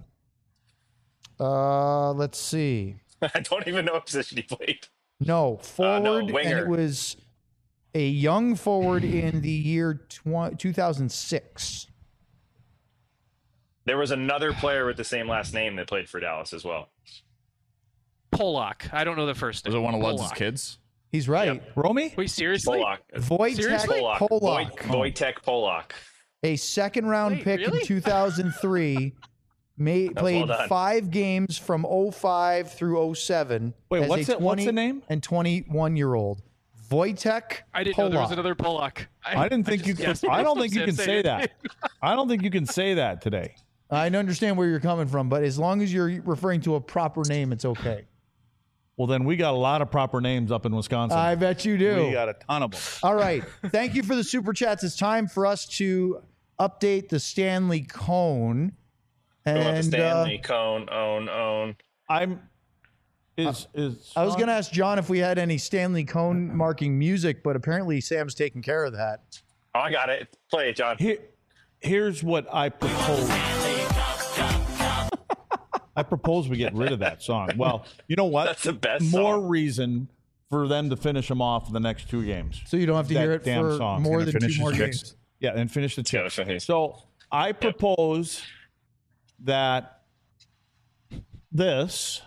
Let's see. I don't even know what position he played. No, forward, and winger. it was a young forward in the year 2006. There was another player with the same last name that played for Dallas as well. Polak. I don't know the first name. Was it one of Lud's Polak. kids? He's right. Romy? Wait, seriously? Polak. Wojtek Seriously? Polak, Wojtek Polak. a second-round Wait, pick really? in 2003, played done. 5 games from 05 through 07. Wait, as what's a it- what's the name? And 21-year-old Wojtek. I didn't know there was Polak. another Polak. I didn't think you just could. guessed. I don't think you Sam can said say it. that. I don't think you can say that today. I understand where you're coming from, but as long as you're referring to a proper name, it's okay. Well, then we got a lot of proper names up in Wisconsin. I bet you do. We got a ton of them. All right. Thank you for the super chats. It's time for us to update the Stanley Cone. Going up to And Stanley, Cone, own. I'm Is I was going to ask John if we had any Stanley Cone marking music, but apparently Sam's taking care of that. Oh, I got it. Play it, John. Here's what I propose. I propose we get rid of that song. Well, you know what? That's the best More song. reason for them to finish them off in the next 2 games. So you don't have to That hear it damn for song's more gonna than 2 finish more his games. chicks. Yeah, and finish the gotta chicks. finish. So I propose that this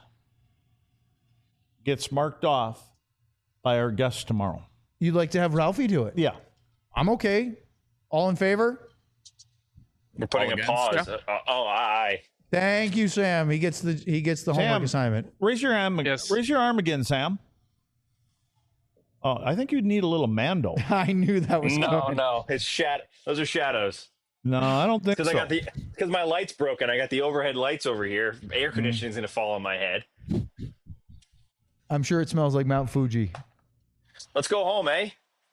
gets marked off by our guest tomorrow. You'd like to have Ralphie do it? Yeah. I'm okay. All in favor? We're putting All a against, pause. Aye. Thank you, Sam. He gets the homework Sam. assignment. Raise your arm. Yes. Raise your arm again, Sam. Oh, I think you'd need a little Mando. I knew that was No, coming. no, it's Those are shadows. No, I don't think Because so. because my light's broken. I got the overhead lights over here. Air conditioning's gonna fall on my head. I'm sure it smells like Mount Fuji. Let's go home, eh?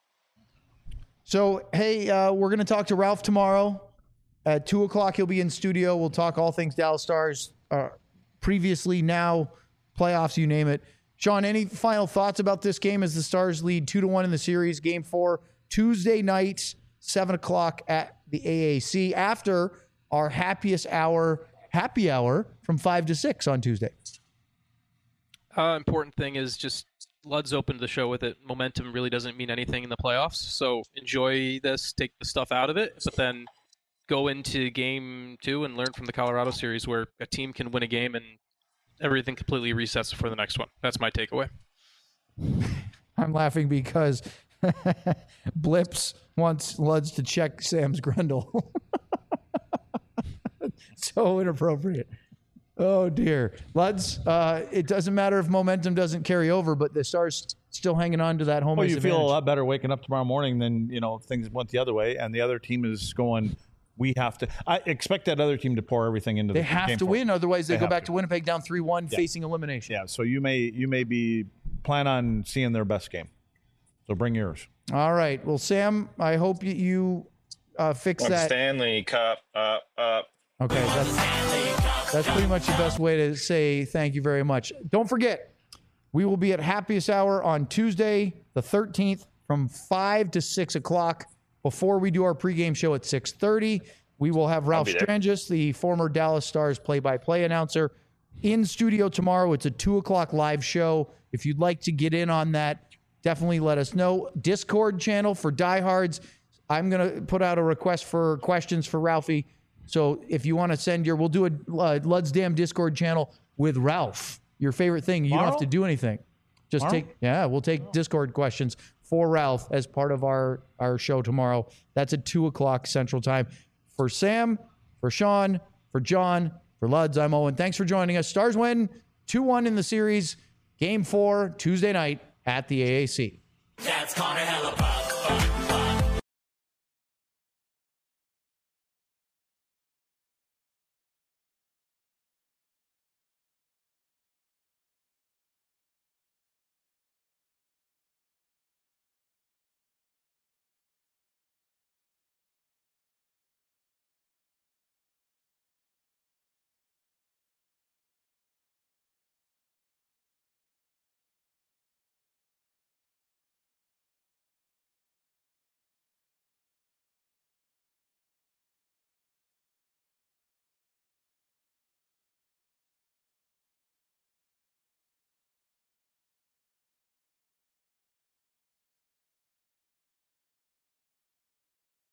So, hey, we're going to talk to Ralph tomorrow. At 2 o'clock, he'll be in studio. We'll talk all things Dallas Stars, previously, now, playoffs, you name it. Sean, any final thoughts about this game as the Stars lead 2-1 in the series? Game 4, Tuesday night, 7 o'clock at the AAC after our happy hour from 5 to 6 on Tuesday. Important thing is just Lud's opened the show with it. Momentum really doesn't mean anything in the playoffs, so enjoy this, take the stuff out of it, but then go into game 2 and learn from the Colorado series where a team can win a game and everything completely resets for the next one. That's my takeaway. I'm laughing because Blips wants Luds to check Sam's Grundle. So inappropriate. Oh, dear. Luds, it doesn't matter if momentum doesn't carry over, but the Stars still hanging on to that home Well, ice you feel a advantage. lot better waking up tomorrow morning than, things went the other way, and the other team is going, we have to. I expect that other team to pour everything into They the have game to for win, otherwise they go have back to. to Winnipeg down 3-1, facing elimination. Yeah, so you may be plan on seeing their best game. So bring yours. All right. Well, Sam, I hope you fix Like that. Stanley Cup up. Okay, that's pretty much the best way to say thank you very much. Don't forget, we will be at Happiest Hour on Tuesday, the 13th, from 5 to 6 o'clock. Before we do our pregame show at 6:30, we will have Ralph be there. Strangis, the former Dallas Stars play-by-play announcer, in studio tomorrow. It's a 2 o'clock live show. If you'd like to get in on that, definitely let us know. Discord channel for diehards. I'm going to put out a request for questions for Ralphie. So if you want to send we'll do a Lud's Damn Discord channel with Ralph. Your favorite thing. You don't have to do anything. Just we'll take Discord questions for Ralph as part of our show tomorrow. That's at 2 o'clock Central Time. For Sam, for Sean, for John, for Luds, I'm Owen. Thanks for joining us. Stars win 2-1 in the series. Game 4, Tuesday night at the AAC. That's Connor Hella.